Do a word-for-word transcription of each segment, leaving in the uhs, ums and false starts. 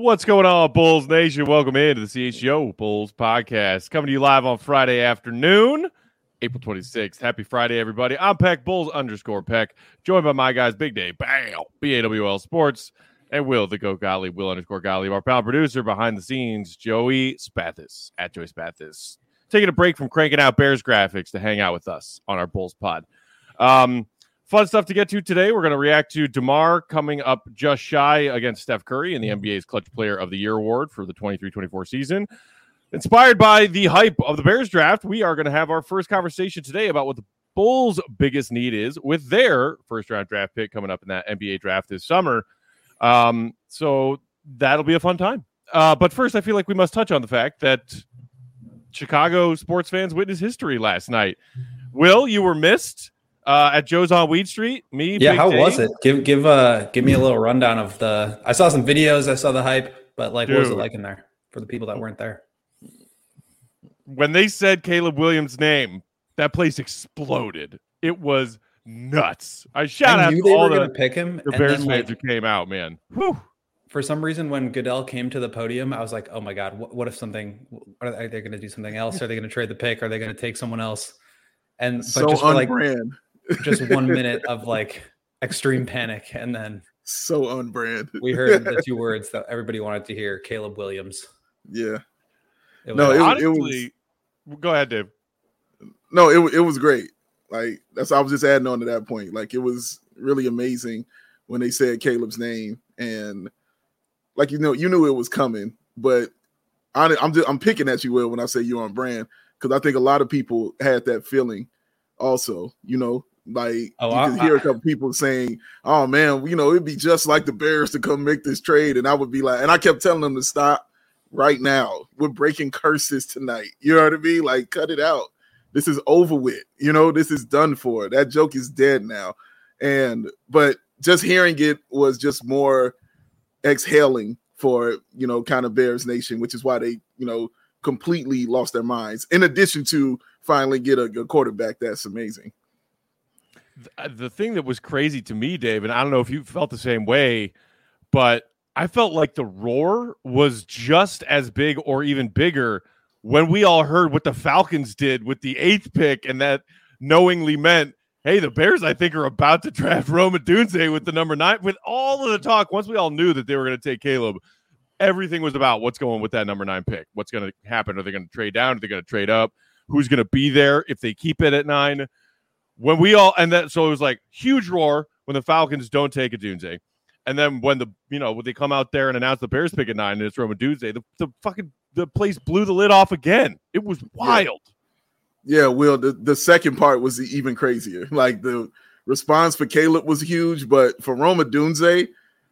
What's going on, Bulls Nation? Welcome into the C H G O Bulls podcast. Coming to you live on Friday afternoon, April twenty-sixth. Happy Friday, everybody. I'm Peck, Bulls underscore Peck, joined by my guys, Big Dave, Bam, B A W L Sports, and Will, the Go Gottlieb, Will underscore Gottlieb, our pal producer behind the scenes, Joey Spathis, at Joey Spathis. Taking a break from cranking out Bears graphics to hang out with us on our Bulls pod. Um, Fun stuff to get to today. We're going to react to DeMar coming up just shy against Steph Curry in the N B A's Clutch Player of the Year award for the twenty-three twenty-four season. Inspired by the hype of the Bears draft, we are going to have our first conversation today about what the Bulls' biggest need is with their first-round draft pick coming up in that N B A draft this summer. Um, so that'll be a fun time. Uh, but first, I feel like we must touch on the fact that Chicago sports fans witnessed history last night. Will, you were missed. Uh, at Joe's on Weed Street, me. Yeah, Big how Dave. was it? Give give uh give me a little rundown of the. I saw some videos, I saw the hype, but like, Dude. What was it like in there for the people that weren't there? When they said Caleb Williams' name, that place exploded. It was nuts. I shout I out knew to they all were the, gonna pick him. the and Bears then, fans like, who came out, man. Whew. For some reason, when Goodell came to the podium, I was like, "Oh my God, what, what if something? Are they going to do something else? Are they going to trade the pick? Are they going to take someone else?" And but so just for like brand. just one minute of like extreme panic, and then so on brand. we heard the two words that everybody wanted to hear: Caleb Williams. Yeah. It was no, it, honestly, it was. Go ahead, Dave. No, it it was great. Like that's I was just adding on to that point. Like it was really amazing when they said Caleb's name, and like you know, you knew it was coming. But I, I'm just, I'm picking at you, Will, when I say you're on brand, because I think a lot of people had that feeling. Also, you know. Like oh, you I, could hear I, a couple people saying, "Oh man, you know, it'd be just like the Bears to come make this trade," and I would be like, and I kept telling them to stop right now. We're breaking curses tonight. You know what I mean? Like, cut it out. This is over with. You know, this is done for. That joke is dead now. And but just hearing it was just more exhaling for you know, kind of Bears Nation, which is why they you know completely lost their minds. In addition to finally get a, a quarterback that's amazing. The thing that was crazy to me, Dave, and I don't know if you felt the same way, but I felt like the roar was just as big or even bigger when we all heard what the Falcons did with the eighth pick, and that knowingly meant, hey, the Bears, I think, are about to draft Rome Odunze with the number nine. With all of the talk, once we all knew that they were going to take Caleb, everything was about what's going with that number nine pick. What's going to happen? Are they going to trade down? Are they going to trade up? Who's going to be there if they keep it at nine? When we all, and that, so it was like huge roar when the Falcons don't take Odunze. And then when the, you know, when they come out there and announce the Bears pick at nine and it's Rome Odunze, the, the fucking, the place blew the lid off again. It was wild. Yeah, yeah Will, the, the second part was even crazier. Like the response for Caleb was huge, but for Rome Odunze,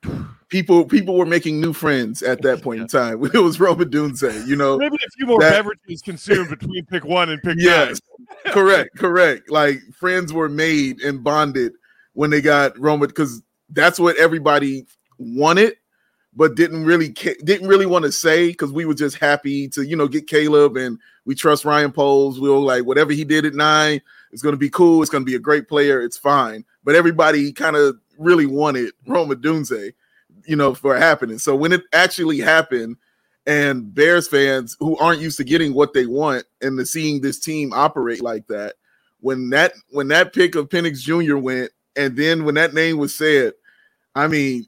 people people were making new friends at that point yeah. in time. It was Rome Odunze, you know. Maybe a few more that, beverages consumed between pick one and pick yes, nine. correct, correct. Like friends were made and bonded when they got Rome, because that's what everybody wanted, but didn't really didn't really want to say, because we were just happy to you know get Caleb, and we trust Ryan Poles. We were like, whatever he did at nine, it's going to be cool. It's going to be a great player. It's fine. But everybody kind of really wanted Rome Odunze, you know, for happening. So when it actually happened, and Bears fans who aren't used to getting what they want and to seeing this team operate like that, when that when that pick of Penix Junior went, and then when that name was said, I mean,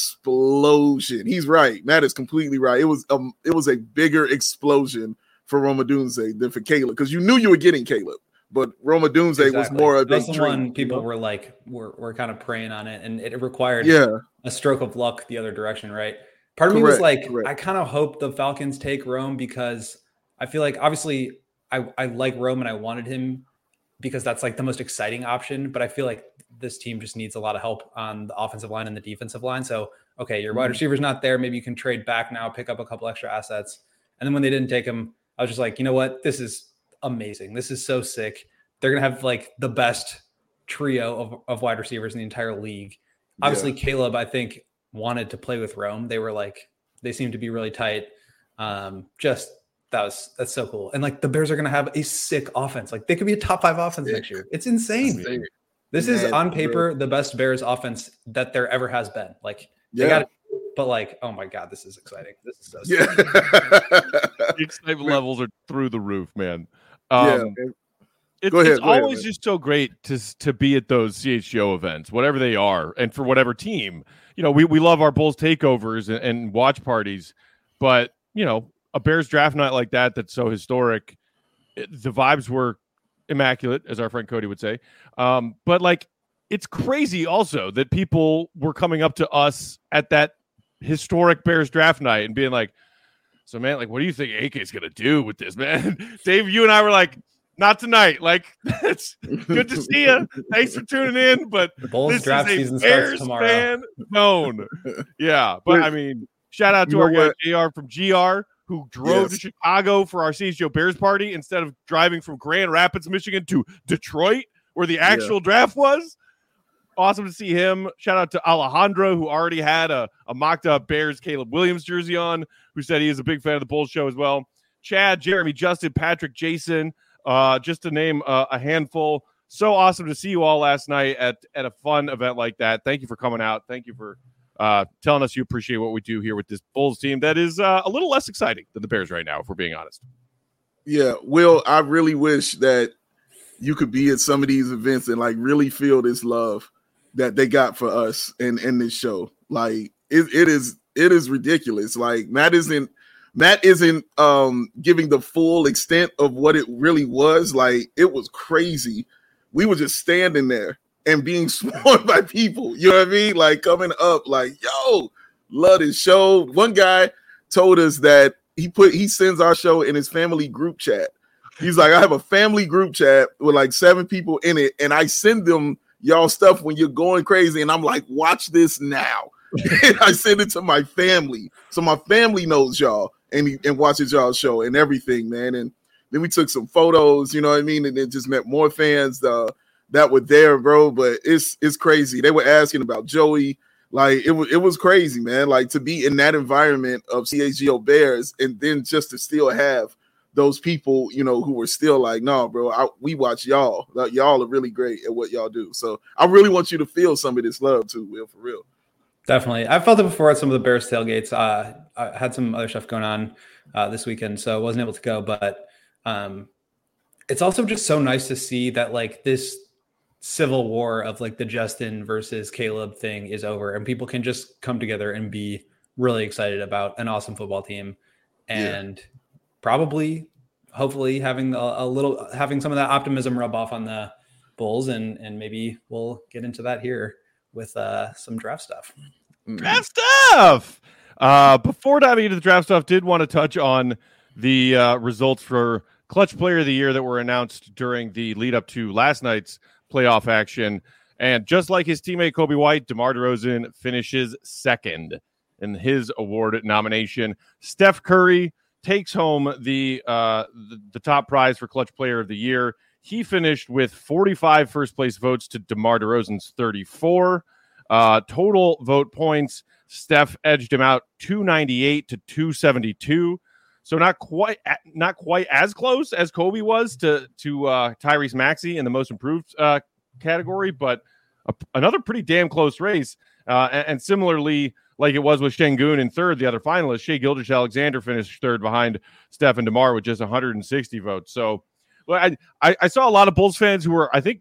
explosion. He's right. Matt is completely right. It was um, it was a bigger explosion for Rome Odunze than for Caleb, because you knew you were getting Caleb. But Rome Odunze exactly. was more of a That's the one people you know? were like, were were kind of preying on it, and it required yeah. a stroke of luck the other direction, right? Part of correct, me was like, correct. I kind of hope the Falcons take Rome, because I feel like obviously I, I like Rome and I wanted him because that's like the most exciting option. But I feel like this team just needs a lot of help on the offensive line and the defensive line. So, okay, your wide receiver's not there. Maybe you can trade back now, pick up a couple extra assets. And then when they didn't take him, I was just like, you know what? This is amazing. This is so sick. They're going to have like the best trio of, of wide receivers in the entire league. Obviously, yeah. Caleb, I think, wanted to play with Rome. They were like, they seemed to be really tight. Um, just that was, that's so cool. And like the Bears are going to have a sick offense. Like they could be a top five offense sick. next year. It's insane. Sick. This yeah, is on paper, the best Bears offense that there ever has been. Like they yeah. got but like, oh my God, this is exciting. This is so yeah. The excitement levels are through the roof, man. Um, yeah. It, go ahead, it's go ahead, always man. just so great to to be at those C H G O events, whatever they are, and for whatever team. You know, we, we love our Bulls takeovers and, and watch parties, but, you know, a Bears draft night like that that's so historic, it, the vibes were immaculate, as our friend Cody would say. Um, but, like, it's crazy also that people were coming up to us at that historic Bears draft night and being like, so, man, like, what do you think A K is going to do with this, man? Dave, you and I were like, not tonight. Like, it's good to see you. Thanks for tuning in. But the Bulls this draft is a season Bears starts tomorrow. Fan zone. Yeah, but I mean, shout out to You our know guy what? J R from G R who drove Yes. to Chicago for our C H G O Bears party instead of driving from Grand Rapids, Michigan to Detroit, where the actual draft was. Awesome to see him. Shout out to Alejandro, who already had a, a mocked up Bears Caleb Williams jersey on, who said he is a big fan of the Bulls show as well. Chad, Jeremy, Justin, Patrick, Jason, uh, just to name uh, a handful. So awesome to see you all last night at, at a fun event like that. Thank you for coming out. Thank you for uh, telling us you appreciate what we do here with this Bulls team that is uh, a little less exciting than the Bears right now, if we're being honest. Yeah, Will, I really wish that you could be at some of these events and like really feel this love that they got for us in, in this show. Like it, it is, it is ridiculous. Like Matt isn't, Matt isn't um, giving the full extent of what it really was. Like it was crazy. We were just standing there and being swarmed by people. You know what I mean? Like coming up, like, yo, love this show. One guy told us that he put he sends our show in his family group chat. He's like, I have a family group chat with like seven people in it, and I send them y'all stuff when you're going crazy. And I'm like, watch this now. And I send it to my family. So my family knows y'all and, he, and watches y'all show and everything, man. And then we took some photos, you know what I mean? And then just met more fans uh, that were there, bro. But it's it's crazy. They were asking about Joey. Like, it was, it was crazy, man. Like, to be in that environment of C H G O Bears and then just to still have those people, you know, who were still like, no, bro, I, we watch y'all. Like, y'all are really great at what y'all do. So I really want you to feel some of this love too, Will, for real. Definitely. I felt it before at some of the Bears tailgates. Uh, I had some other stuff going on uh, this weekend, so I wasn't able to go. But um, it's also just so nice to see that, like, this civil war of, like, the Justin versus Caleb thing is over, and people can just come together and be really excited about an awesome football team. And yeah. probably, hopefully, having a, a little, having some of that optimism rub off on the Bulls, and and maybe we'll get into that here with uh, some draft stuff. Draft stuff! Uh, before diving into the draft stuff, did want to touch on the uh, results for Clutch Player of the Year that were announced during the lead up to last night's playoff action. And just like his teammate Kobe White, DeMar DeRozan finishes second in his award nomination. Steph Curry takes home the, uh, the, the top prize for Clutch Player of the Year. He finished with forty-five first-place votes to DeMar DeRozan's thirty-four. Uh, total vote points, Steph edged him out two ninety-eight to two seventy-two. So not quite not quite as close as Kobe was to, to uh, Tyrese Maxey in the most improved uh, category, but a, another pretty damn close race. Uh, and, and similarly, like it was with Şengün in third, the other finalist, Shai Gilgeous-Alexander finished third behind Steph and DeMar with just one hundred sixty votes. So I, I, I saw a lot of Bulls fans who were, I think,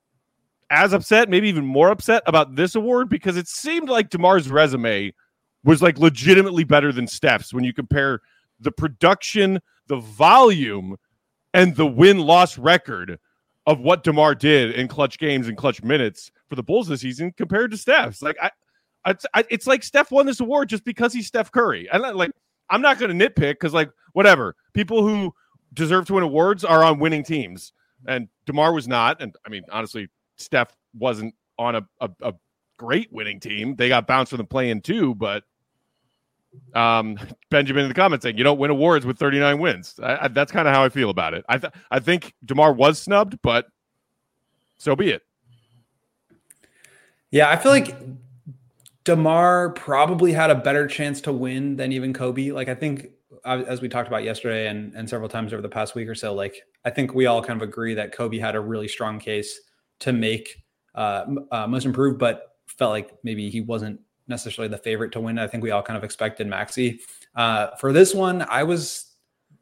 as upset, maybe even more upset about this award because it seemed like DeMar's resume was like legitimately better than Steph's when you compare the production, the volume, and the win-loss record of what DeMar did in clutch games and clutch minutes for the Bulls this season compared to Steph's. Like I, I it's like Steph won this award just because he's Steph Curry. And like I'm not going to nitpick because like whatever, people who deserve to win awards are on winning teams, and DeMar was not. And I mean, honestly, Steph wasn't on a, a, a great winning team. They got bounced from the play-in too, but um, Benjamin in the comments saying you don't win awards with thirty-nine wins. I, I, that's kind of how I feel about it. I th- I think DeMar was snubbed, but so be it. Yeah, I feel like DeMar probably had a better chance to win than even Kobe. Like I think, as we talked about yesterday and, and several times over the past week or so, like I think we all kind of agree that Kobe had a really strong case to make uh, uh, most improved, but felt like maybe he wasn't necessarily the favorite to win. I think we all kind of expected Maxey. Uh, for this one, I was,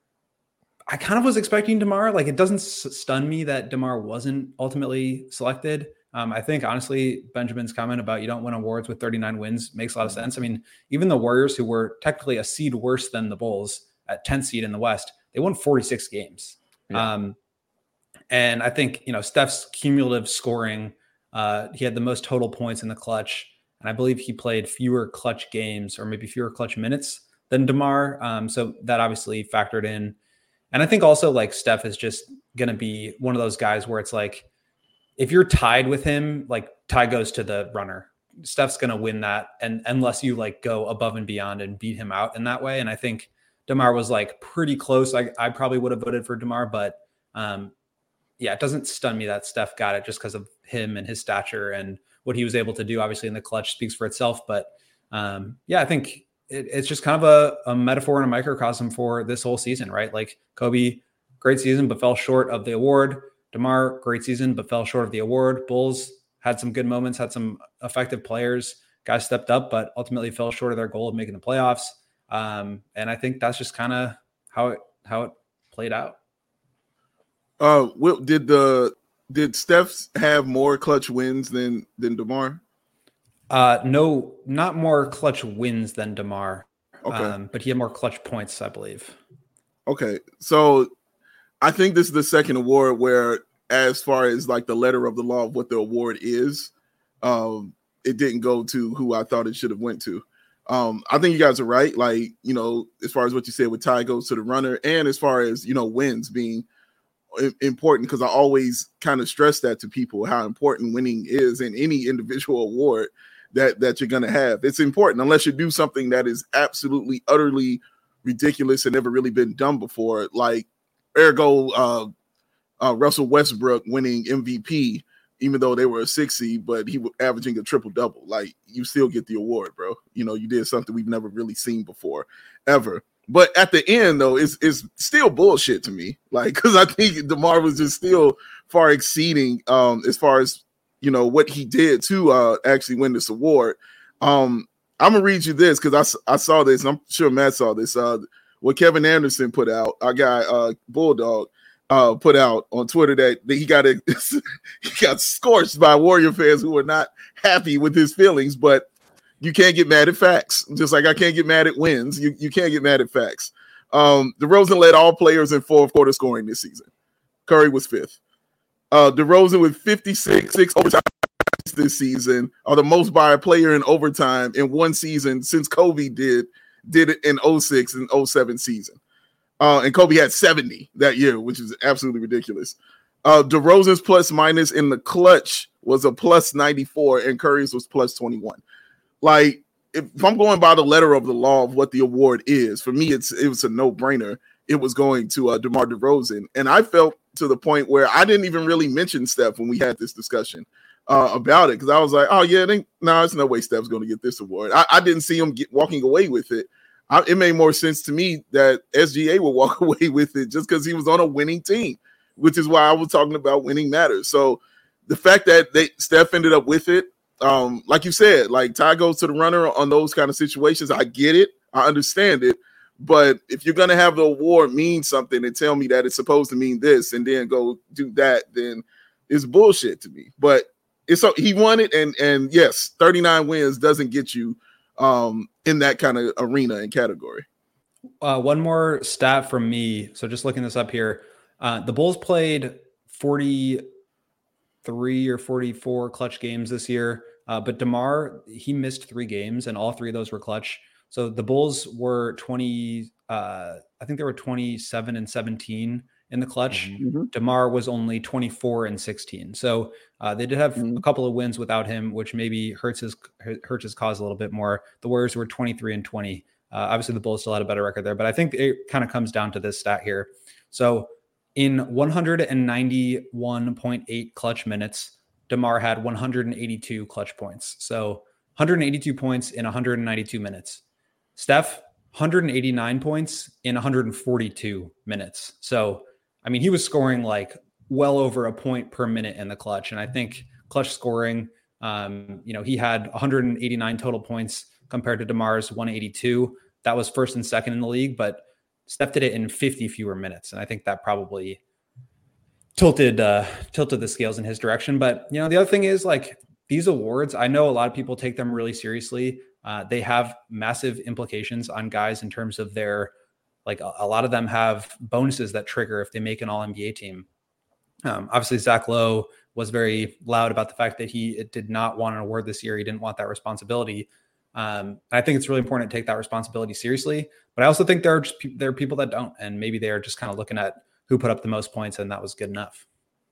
I kind of was expecting DeMar. Like, it doesn't stun me that DeMar wasn't ultimately selected. Um, I think, honestly, Benjamin's comment about you don't win awards with thirty-nine wins makes a lot of sense. I mean, even the Warriors, who were technically a seed worse than the Bulls at tenth seed in the West, they won forty-six games. Yeah. Um, and I think, you know, Steph's cumulative scoring, uh, he had the most total points in the clutch. And I believe he played fewer clutch games or maybe fewer clutch minutes than DeMar. Um, so that obviously factored in. And I think also, like, Steph is just going to be one of those guys where it's like, if you're tied with him, like, tie goes to the runner. Steph's going to win that. And unless you like go above and beyond and beat him out in that way. And I think DeMar was like pretty close. I, I probably would have voted for DeMar, but um, yeah, it doesn't stun me that Steph got it just because of him and his stature and what he was able to do. Obviously in the clutch speaks for itself, but um, yeah, I think it, it's just kind of a, a metaphor and a microcosm for this whole season, right? Like, Kobe, great season, but fell short of the award. DeMar, great season, but fell short of the award. Bulls had some good moments, had some effective players. Guys stepped up, but ultimately fell short of their goal of making the playoffs. Um, and I think that's just kind of how it how it played out. Uh, Will, did the did Steph have more clutch wins than than DeMar? Uh, no, not more clutch wins than DeMar. Okay, um, but he had more clutch points, I believe. Okay, so I think this is the second award where, as far as like the letter of the law of what the award is, um, it didn't go to who I thought it should have went to. Um, I think you guys are right. Like, you know, as far as what you said with tie goes to the runner, and as far as, you know, wins being important, because I always kind of stress that to people, how important winning is in any individual award that, that you're going to have. It's important unless you do something that is absolutely, utterly ridiculous and never really been done before. Like, ergo, uh, uh, Russell Westbrook winning M V P, even though they were a six seed, but he was averaging a triple double. Like, you still get the award, bro. You know, you did something we've never really seen before, ever. But at the end, though, it's it's still bullshit to me. Like, because I think DeMar was just still far exceeding um, as far as, you know, what he did to uh, actually win this award. Um, I'm gonna read you this because I, I saw this. And I'm sure Matt saw this. Uh, what Kevin Anderson put out, our guy uh, Bulldog. Uh, put out on Twitter that, that he got a, he got scorched by Warrior fans who were not happy with his feelings. But you can't get mad at facts, just like I can't get mad at wins. You you can't get mad at facts. Um, DeRozan led all players in fourth quarter scoring this season. Curry was fifth. Uh, DeRozan with fifty-six six overtime this season, are the most by a player in overtime in one season since Kobe did did it in oh six and oh seven season. Uh, and Kobe had seventy that year, which is absolutely ridiculous. Uh, DeRozan's plus minus in the clutch was a plus ninety-four, and Curry's was plus twenty-one. Like, if, if I'm going by the letter of the law of what the award is, for me, it's it was a no-brainer. It was going to uh, DeMar DeRozan. And I felt to the point where I didn't even really mention Steph when we had this discussion uh, about it, because I was like, oh, yeah, no, nah, there's no way Steph's going to get this award. I, I didn't see him get, walking away with it. I, it made more sense to me that S G A would walk away with it just because he was on a winning team, which is why I was talking about winning matters. So the fact that they Steph ended up with it, um, like you said, like tie goes to the runner on those kind of situations. I get it. I understand it. But if you're going to have the award mean something and tell me that it's supposed to mean this and then go do that, then it's bullshit to me. But it's so he won it. And, and yes, thirty-nine wins doesn't get you um, in that kind of arena and category. Uh, one more stat from me. So just looking this up here, uh, the Bulls played forty-three or forty-four clutch games this year. Uh, but DeMar, he missed three games and all three of those were clutch. So the Bulls were twenty, uh, I think they were twenty-seven and seventeen in the clutch. Mm-hmm. DeMar was only twenty-four and sixteen. So uh, they did have mm-hmm. a couple of wins without him, which maybe hurts his hurts his cause a little bit more. The Warriors were twenty-three and twenty. Uh, obviously, the Bulls still had a better record there, but I think it kind of comes down to this stat here. So in one ninety-one point eight clutch minutes, DeMar had one hundred eighty-two clutch points. So one hundred eighty-two points in one hundred ninety-two minutes. Steph, one hundred eighty-nine points in one hundred forty-two minutes. So, I mean, he was scoring like well over a point per minute in the clutch. And I think clutch scoring Um, you know, he had one hundred eighty-nine total points compared to DeMar's one eighty-two. That was first and second in the league, but Steph did it in fifty fewer minutes. And I think that probably tilted, uh, tilted the scales in his direction. But, you know, the other thing is like these awards, I know a lot of people take them really seriously. Uh, they have massive implications on guys in terms of their, like a, a lot of them have bonuses that trigger if they make an all N B A team. Um, obviously Zach Lowe was very loud about the fact that he did not want an award this year. He didn't want that responsibility. Um, I think it's really important to take that responsibility seriously, but I also think there are just pe- there are people that don't, and maybe they are just kind of looking at who put up the most points, and that was good enough.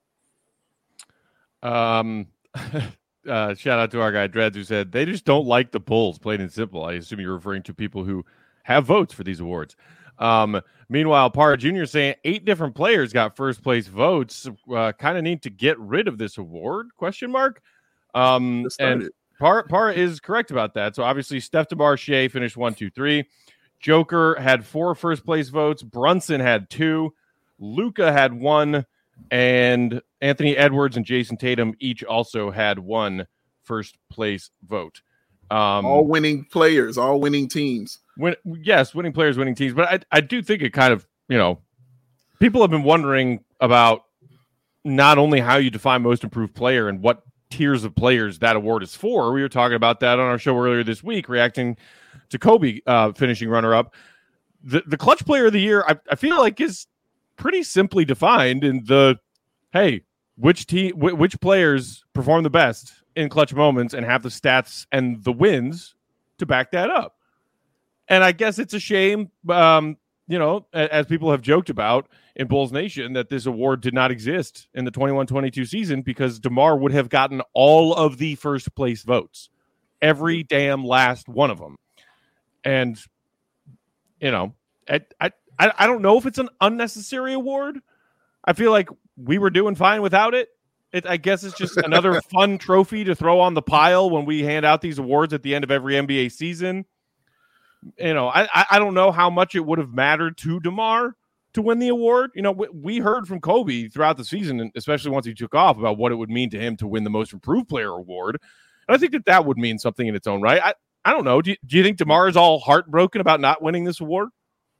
Um, uh, shout out to our guy Dreads who said they just don't like the Bulls, plain and simple. I assume you're referring to people who have votes for these awards. Um, meanwhile, Parra Junior saying eight different players got first place votes. Uh, kind of need to get rid of this award? Question mark. Um, and Parra, Parra is correct about that. So obviously, Steph DeMar Shea finished one, two, three. Joker had four first place votes. Brunson had two. Luka had one, and Anthony Edwards and Jason Tatum each also had one first place vote. Um, all winning players, all winning teams. Win, yes, winning players, winning teams. But I, I do think it kind of, you know, people have been wondering about not only how you define most improved player and what tiers of players that award is for. We were talking about that on our show earlier this week, reacting to Kobe uh, finishing runner-up. The the clutch player of the year, I, I feel like, is pretty simply defined in the, hey, which team, w- which players perform the best in clutch moments and have the stats and the wins to back that up. And I guess it's a shame, um, you know, as people have joked about in Bulls Nation, that this award did not exist in the twenty-one twenty-two season because DeMar would have gotten all of the first place votes, every damn last one of them. And, you know, I, I, I don't know if it's an unnecessary award. I feel like we were doing fine without it. It, I guess it's just another fun trophy to throw on the pile when we hand out these awards at the end of every N B A season. You know, I I don't know how much it would have mattered to DeMar to win the award. You know, we, we heard from Kobe throughout the season, and especially once he took off, about what it would mean to him to win the most improved player award. And I think that that would mean something in its own right. I, I don't know. Do you, do you think DeMar is all heartbroken about not winning this award?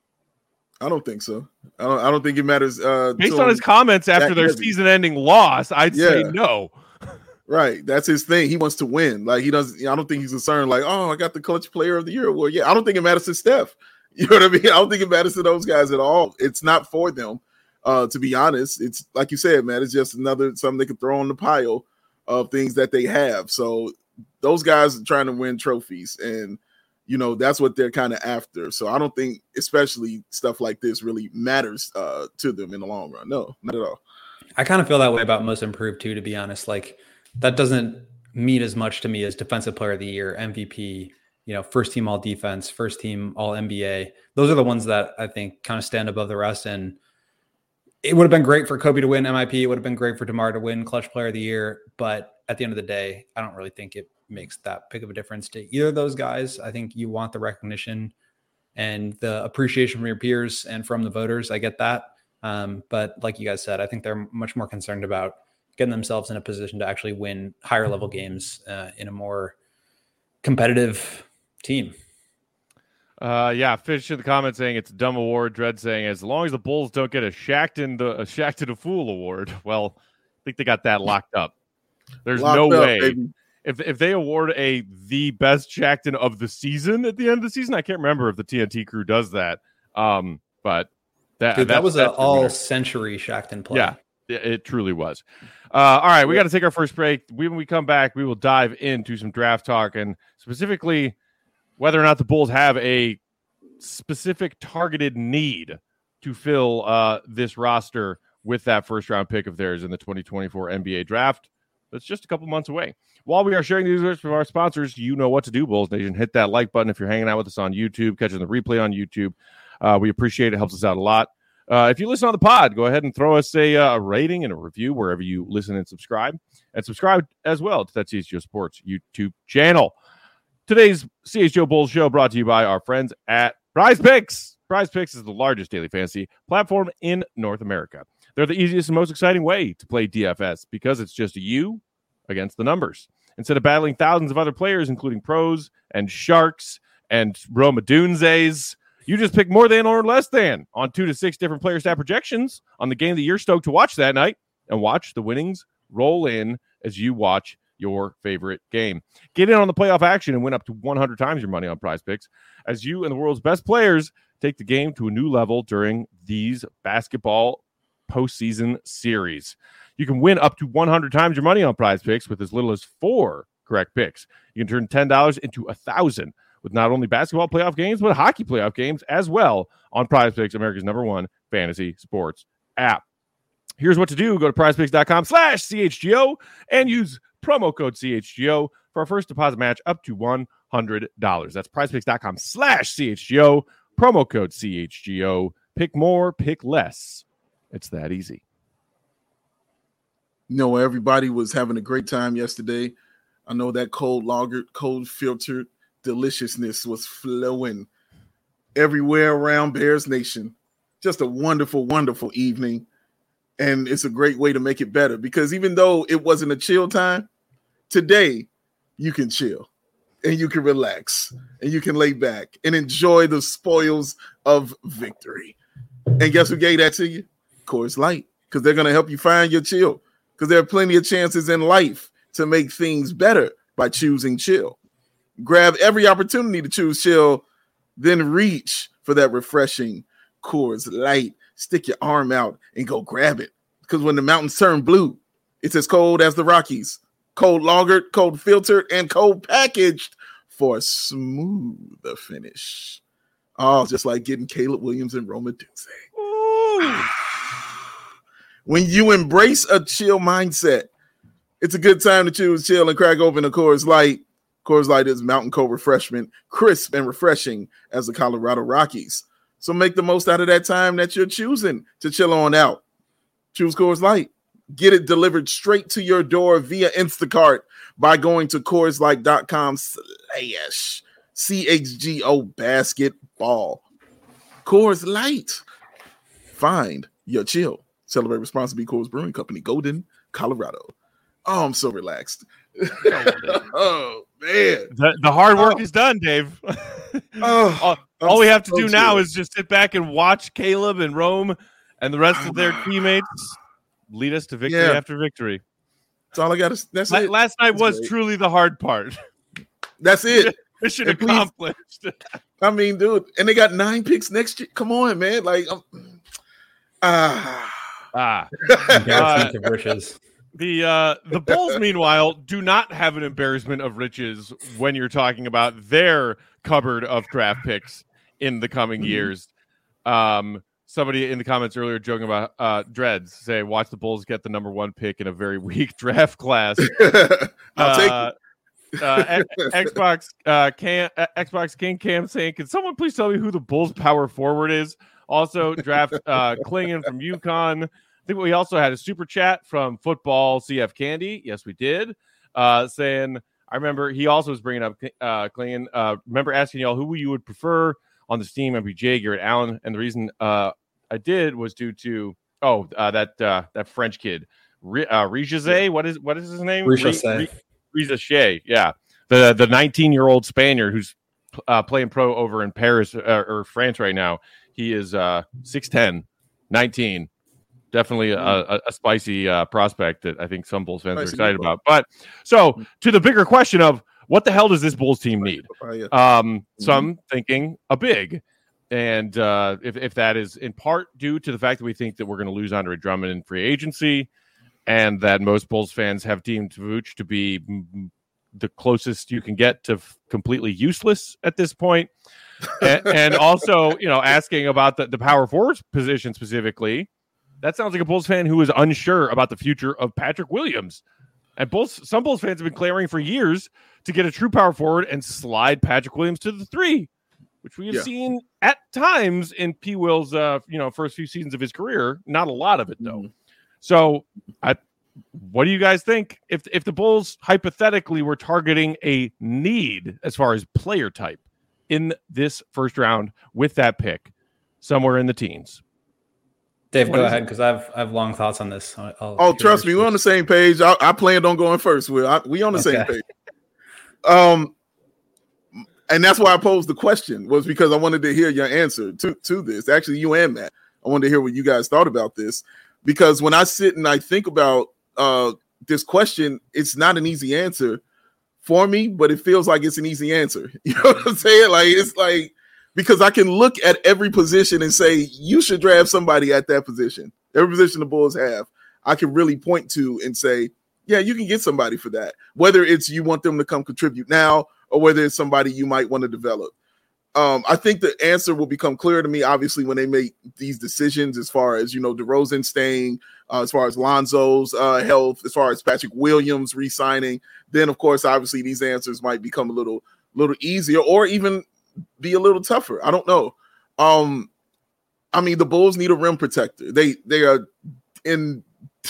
I don't think so. I don't, I don't think it matters. Uh, Based on his comments after their heavy. season-ending loss, I'd yeah. say no. Right. That's his thing. He wants to win. Like, he doesn't, I don't think he's concerned, like, oh, I got the clutch player of the year award. Yeah, I don't think it matters to Steph. You know what I mean? I don't think it matters to those guys at all. It's not for them, uh, to be honest. It's like you said, man, it's just another something they can throw on the pile of things that they have. So those guys are trying to win trophies, and, you know, that's what they're kind of after. So I don't think, especially stuff like this, really matters uh, to them in the long run. No, not at all. I kind of feel that way about most improved too, to be honest. Like, that doesn't mean as much to me as defensive player of the year, M V P, you know, first team all defense, first team all N B A. Those are the ones that I think kind of stand above the rest. And it would have been great for Kobe to win M I P. It would have been great for DeMar to win clutch player of the year. But at the end of the day, I don't really think it makes that big of a difference to either of those guys. I think you want the recognition and the appreciation from your peers and from the voters. I get that. Um, but like you guys said, I think they're much more concerned about getting themselves in a position to actually win higher level games uh, in a more competitive team. Uh, yeah, Fish in the comments saying it's a dumb award. Dread saying as long as the Bulls don't get a Shackton the a Shackton a Fool award, well, I think they got that locked up. There's locked no up, way baby. if if they award a the best Shackton of the season at the end of the season. I can't remember if the T N T crew does that. Um, but that Dude, that was an all century Shackton play. Yeah. It truly was. Uh, all right, we got to take our first break. When we come back, we will dive into some draft talk and specifically whether or not the Bulls have a specific targeted need to fill uh, this roster with that first-round pick of theirs in the twenty twenty-four N B A draft. That's just a couple months away. While we are sharing these words from our sponsors, you know what to do, Bulls Nation. Hit that like button if you're hanging out with us on YouTube, catching the replay on YouTube. Uh, we appreciate it. Helps us out a lot. Uh, if you listen on the pod, go ahead and throw us a, uh, a rating and a review wherever you listen and subscribe. And subscribe as well to that C H G O Sports YouTube channel. Today's C H G O Bulls show brought to you by our friends at Prize Picks. Prize Picks is the largest daily fantasy platform in North America. They're the easiest and most exciting way to play D F S because it's just you against the numbers. Instead of battling thousands of other players, including pros and sharks and Roma Dunzes, you just pick more than or less than on two to six different player stat projections on the game that you're stoked to watch that night, and watch the winnings roll in as you watch your favorite game. Get in on the playoff action and win up to one hundred times your money on Prize Picks as you and the world's best players take the game to a new level during these basketball postseason series. You can win up to one hundred times your money on Prize Picks with as little as four correct picks. You can turn ten dollars into one thousand dollars with not only basketball playoff games, but hockey playoff games as well on Prize Picks, America's number one fantasy sports app. Here's what to do. Go to prizepicks.com slash CHGO and use promo code C H G O for our first deposit match up to one hundred dollars. That's prizepicks.com slash CHGO, promo code C H G O. Pick more, pick less. It's that easy. You know, everybody was having a great time yesterday. I know that cold lagered, cold filtered deliciousness was flowing everywhere around Bears Nation. Just a wonderful, wonderful evening. And it's a great way to make it better because even though it wasn't a chill time, today you can chill and you can relax and you can lay back and enjoy the spoils of victory. And guess who gave that to you? Coors Light, because they're going to help you find your chill, because there are plenty of chances in life to make things better by choosing chill. Grab every opportunity to choose chill, then reach for that refreshing Coors Light. Stick your arm out and go grab it, because when the mountains turn blue, it's as cold as the Rockies. Cold lagered, cold filtered, and cold packaged for a smoother finish. Oh, just like getting Caleb Williams and Roma Dunze. When you embrace a chill mindset, it's a good time to choose chill and crack open a Coors Light. Coors Light is mountain cold refreshment, crisp and refreshing as the Colorado Rockies. So make the most out of that time that you're choosing to chill on out. Choose Coors Light. Get it delivered straight to your door via Instacart by going to CoorsLight.com slash CHGO basketball. Coors Light. Find your chill. Celebrate responsibly. Coors Brewing Company, Golden, Colorado. Oh, I'm so relaxed. Oh, man. The, the hard work oh. is done, Dave. oh, all all we have to so do now is just sit back and watch Caleb and Rome and the rest of their teammates lead us to victory yeah. after victory. That's all I got to That's La- it. Last night that's was great. Truly the hard part. That's it. Mission accomplished. I mean, dude, and they got nine picks next year. Come on, man. Like, um, ah. Ah. Embarrassment of riches. The uh, the Bulls, meanwhile, do not have an embarrassment of riches when you're talking about their cupboard of draft picks in the coming years. Um, somebody in the comments earlier joking about uh, dreads say, watch the Bulls get the number one pick in a very weak draft class. I'll take uh, it. uh, Xbox uh, can uh, Xbox King Cam saying, can someone please tell me who the Bulls power forward is? Also, draft uh, Klingon from UConn. I think we also had a super chat from Football C F Candy. Yes, we did. Uh, saying, I remember he also was bringing up uh, Klingon. Uh, remember asking y'all who you would prefer on this team, M P J, Garrett Allen. And the reason uh, I did was due to, oh, uh, that uh, that French kid, R- uh, Rijaze. What is what is his name? Rijaze. Rijaze, yeah. The the nineteen-year-old Spaniard who's uh, playing pro over in Paris uh, or France right now. He is uh, six ten, nineteen. Definitely a, a, a spicy uh, prospect that I think some Bulls fans spicy are excited about. But so to the bigger question of what the hell does this Bulls team need? Um, some mm-hmm. thinking a big. And uh, if, if that is in part due to the fact that we think that we're going to lose Andre Drummond in free agency and that most Bulls fans have deemed Vooch to be m- the closest you can get to f- completely useless at this point. and, and also, you know, asking about the, the power forward position specifically. That sounds like a Bulls fan who is unsure about the future of Patrick Williams. And Bulls, some Bulls fans have been clamoring for years to get a true power forward and slide Patrick Williams to the three, which we have yeah. seen at times in P. Will's uh, you know, first few seasons of his career. Not a lot of it, though. Mm-hmm. So I, what do you guys think? If, if the Bulls hypothetically were targeting a need as far as player type in this first round with that pick somewhere in the teens? Dave, go ahead because I have I have long thoughts on this. I'll oh, trust me, we're on the same page. I, I planned on going first. We're I, we on the okay. same page. Um, and that's why I posed the question, was because I wanted to hear your answer to to this. Actually, you and Matt, I wanted to hear what you guys thought about this, because when I sit and I think about uh this question, it's not an easy answer for me, but it feels like it's an easy answer. You know what I'm saying? Like, it's like, because I can look at every position and say, you should draft somebody at that position. Every position the Bulls have, I can really point to and say, yeah, you can get somebody for that. Whether it's you want them to come contribute now or whether it's somebody you might want to develop. Um, I think the answer will become clear to me, obviously, when they make these decisions as far as, you know, DeRozan staying, uh, as far as Lonzo's uh, health, as far as Patrick Williams re-signing. Then, of course, obviously, these answers might become a little, little easier or even be a little tougher. I don't know. Um, I mean, the Bulls need a rim protector. They they are in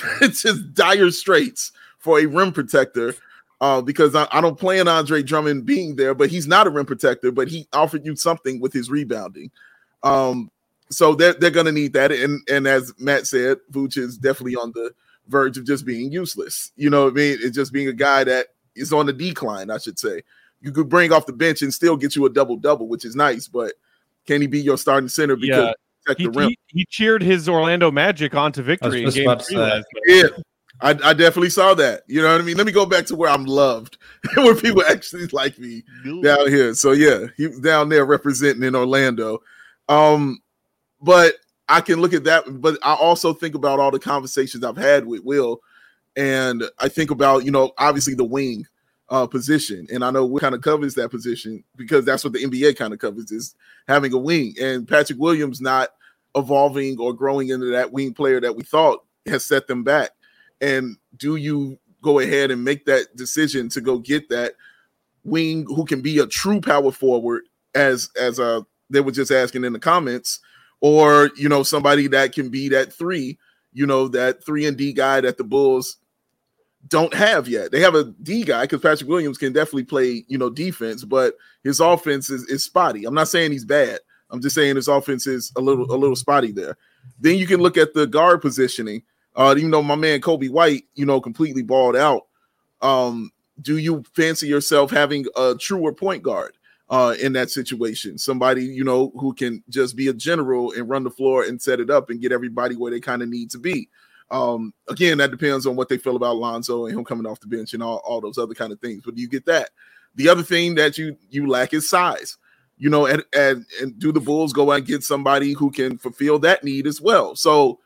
just dire straits for a rim protector. Uh, because I, I don't plan Andre Drummond being there, but he's not a rim protector, but he offered you something with his rebounding. Um, so they're, they're going to need that. And, and as Matt said, Vooch is definitely on the verge of just being useless. You know what I mean? It's just being a guy that is on the decline, I should say. You could bring off the bench and still get you a double-double, which is nice, but can he be your starting center? Because yeah. he, the rim? He, he cheered his Orlando Magic onto victory in game three last night. Yeah. I, I definitely saw that. You know what I mean? Let me go back to where I'm loved, where people actually like me down here. So, yeah, he was down there representing in Orlando. Um, but I can look at that. But I also think about all the conversations I've had with Will. And I think about, you know, obviously the wing uh, position. And I know what kind of covers that position because that's what the N B A kind of covers, is having a wing. And Patrick Williams not evolving or growing into that wing player that we thought has set them back. And do you go ahead and make that decision to go get that wing who can be a true power forward, as as uh they were just asking in the comments, or, you know, somebody that can be that three, you know, that three and D guy that the Bulls don't have yet. They have a D guy because Patrick Williams can definitely play, you know, defense, but his offense is, is spotty. I'm not saying he's bad. I'm just saying his offense is a little a little spotty there. Then you can look at the guard positioning. Uh, even though my man Kobe White, you know, completely balled out, um, do you fancy yourself having a truer point guard uh, in that situation? Somebody, you know, who can just be a general and run the floor and set it up and get everybody where they kind of need to be. Um, again, that depends on what they feel about Lonzo and him coming off the bench and all, all those other kind of things. But do you get that? The other thing that you you lack is size. You know, and, and, and do the Bulls go out and get somebody who can fulfill that need as well? So,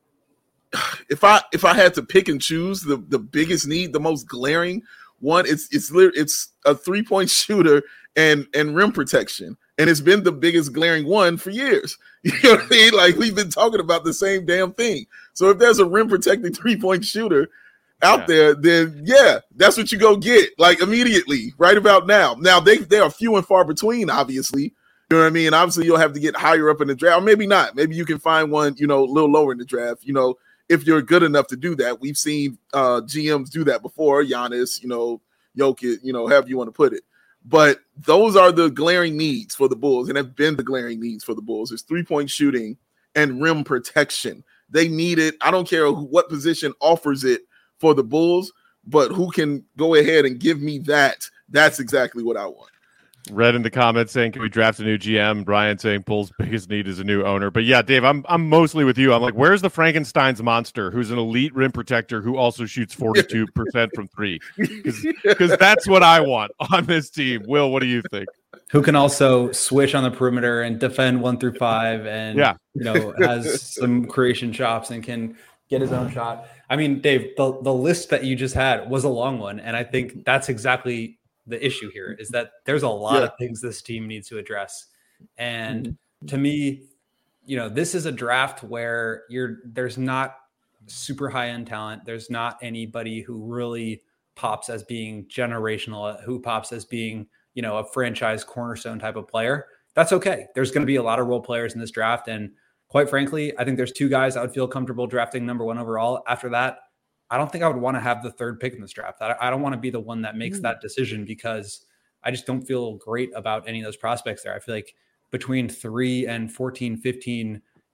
If I if I had to pick and choose the, the biggest need, the most glaring one, it's it's it's a three-point shooter and and rim protection, and it's been the biggest glaring one for years. You know what I mean? Like, we've been talking about the same damn thing. So if there's a rim protecting three-point shooter out yeah. there, then yeah, that's what you go get, like, immediately, right about now. Now they they are few and far between, obviously. You know what I mean? Obviously, you'll have to get higher up in the draft, or maybe not. Maybe you can find one, you know, a little lower in the draft. You know. If you're good enough to do that. We've seen uh, G Ms do that before, Giannis, you know, Jokic, you know, however you want to put it. But those are the glaring needs for the Bulls, and have been the glaring needs for the Bulls. It's three-point shooting and rim protection. They need it. I don't care who, what position offers it for the Bulls, but who can go ahead and give me that. That's exactly what I want. Read in the comments saying, can we draft a new G M? Brian saying Bulls' biggest need is a new owner. But yeah, Dave, I'm I'm mostly with you. I'm like, where's the Frankenstein's monster who's an elite rim protector who also shoots forty-two percent from three? Because that's what I want on this team. Will, what do you think? Who can also switch on the perimeter and defend one through five and, yeah. you know, has some creation chops and can get his own shot. I mean, Dave, the, the list that you just had was a long one. And I think that's exactly the issue here, is that there's a lot yeah. of things this team needs to address. And mm-hmm. to me, you know, this is a draft where you're there's not super high end talent. There's not anybody who really pops as being generational, who pops as being, you know, a franchise cornerstone type of player. That's okay. There's going to be a lot of role players in this draft. And quite frankly, I think there's two guys I would feel comfortable drafting number one overall. After that, I don't think I would want to have the third pick in this draft. I, I don't want to be the one that makes mm. that decision, because I just don't feel great about any of those prospects there. I feel like between three and fourteen, fifteen,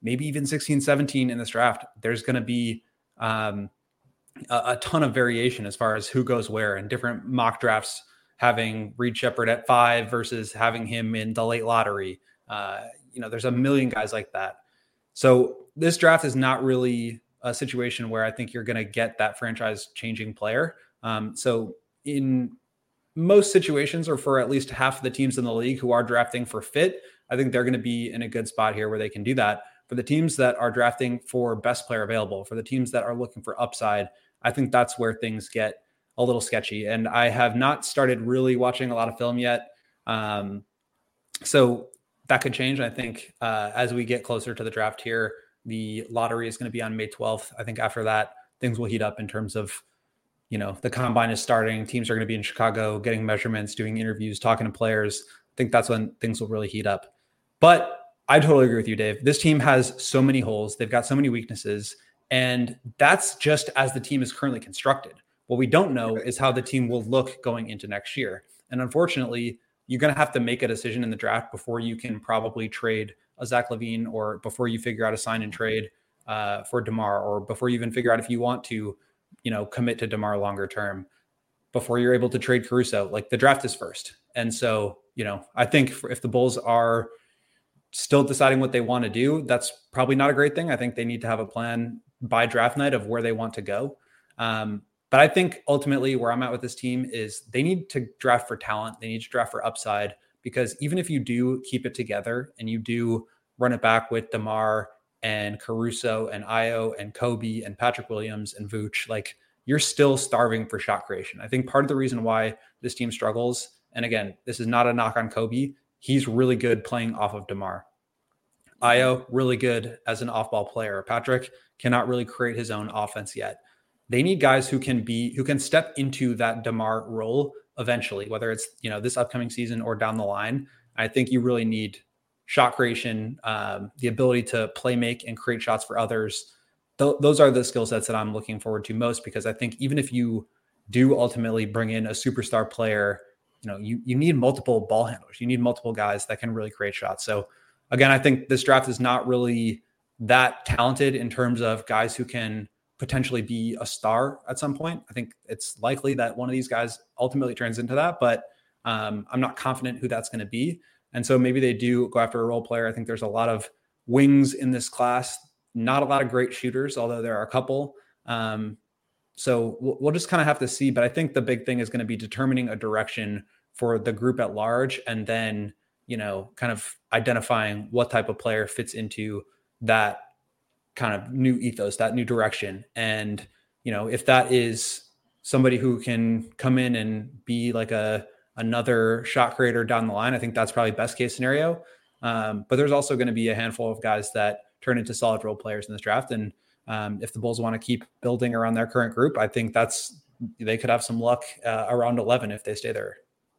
maybe even sixteen, seventeen in this draft, there's going to be um, a, a ton of variation as far as who goes where, and different mock drafts having Reed Sheppard at five versus having him in the late lottery. Uh, you know, there's a million guys like that. So this draft is not really a situation where I think you're going to get that franchise changing player. Um, so in most situations, or for at least half of the teams in the league who are drafting for fit, I think they're going to be in a good spot here where they can do that. For the teams that are drafting for best player available, for the teams that are looking for upside, I think that's where things get a little sketchy. And I have not started really watching a lot of film yet. Um, so that could change. I think uh, as we get closer to the draft here, the lottery is going to be on May twelfth. I think after that, things will heat up in terms of, you know, the combine is starting. Teams are going to be in Chicago, getting measurements, doing interviews, talking to players. I think that's when things will really heat up. But I totally agree with you, Dave. This team has so many holes. They've got so many weaknesses. And that's just as the team is currently constructed. What we don't know is how the team will look going into next year. And unfortunately, you're going to have to make a decision in the draft before you can probably trade a Zach LaVine, or before you figure out a sign and trade uh, for DeMar, or before you even figure out if you want to, you know, commit to DeMar longer term, before you're able to trade Caruso. Like, the draft is first. And so, you know, I think if the Bulls are still deciding what they want to do, that's probably not a great thing. I think they need to have a plan by draft night of where they want to go. Um, but I think ultimately where I'm at with this team is they need to draft for talent. They need to draft for upside, because even if you do keep it together and you do run it back with DeMar and Caruso and Ayo and Kobe and Patrick Williams and Vooch, like, you're still starving for shot creation. I think part of the reason why this team struggles, and again, this is not a knock on Kobe, he's really good playing off of DeMar. Ayo, really good as an off-ball player. Patrick cannot really create his own offense yet. They need guys who can be, who can step into that DeMar role eventually, whether it's, you know, this upcoming season or down the line. I think you really need shot creation, um, the ability to play make and create shots for others. Th- those are the skill sets that I'm looking forward to most, because I think even if you do ultimately bring in a superstar player, you know, you, you need multiple ball handlers. You need multiple guys that can really create shots. So again, I think this draft is not really that talented in terms of guys who can potentially be a star at some point. I think it's likely that one of these guys ultimately turns into that, but um, I'm not confident who that's going to be. And so maybe they do go after a role player. I think there's a lot of wings in this class, not a lot of great shooters, although there are a couple. Um, so we'll, we'll just kind of have to see. But I think the big thing is going to be determining a direction for the group at large, and then, you know, kind of identifying what type of player fits into that kind of new ethos, that new direction. And, you know, if that is somebody who can come in and be like a, another shot creator down the line, I think that's probably best case scenario. Um, but there's also going to be a handful of guys that turn into solid role players in this draft. And um, if the Bulls want to keep building around their current group, I think that's, they could have some luck uh, around eleven if they stay there.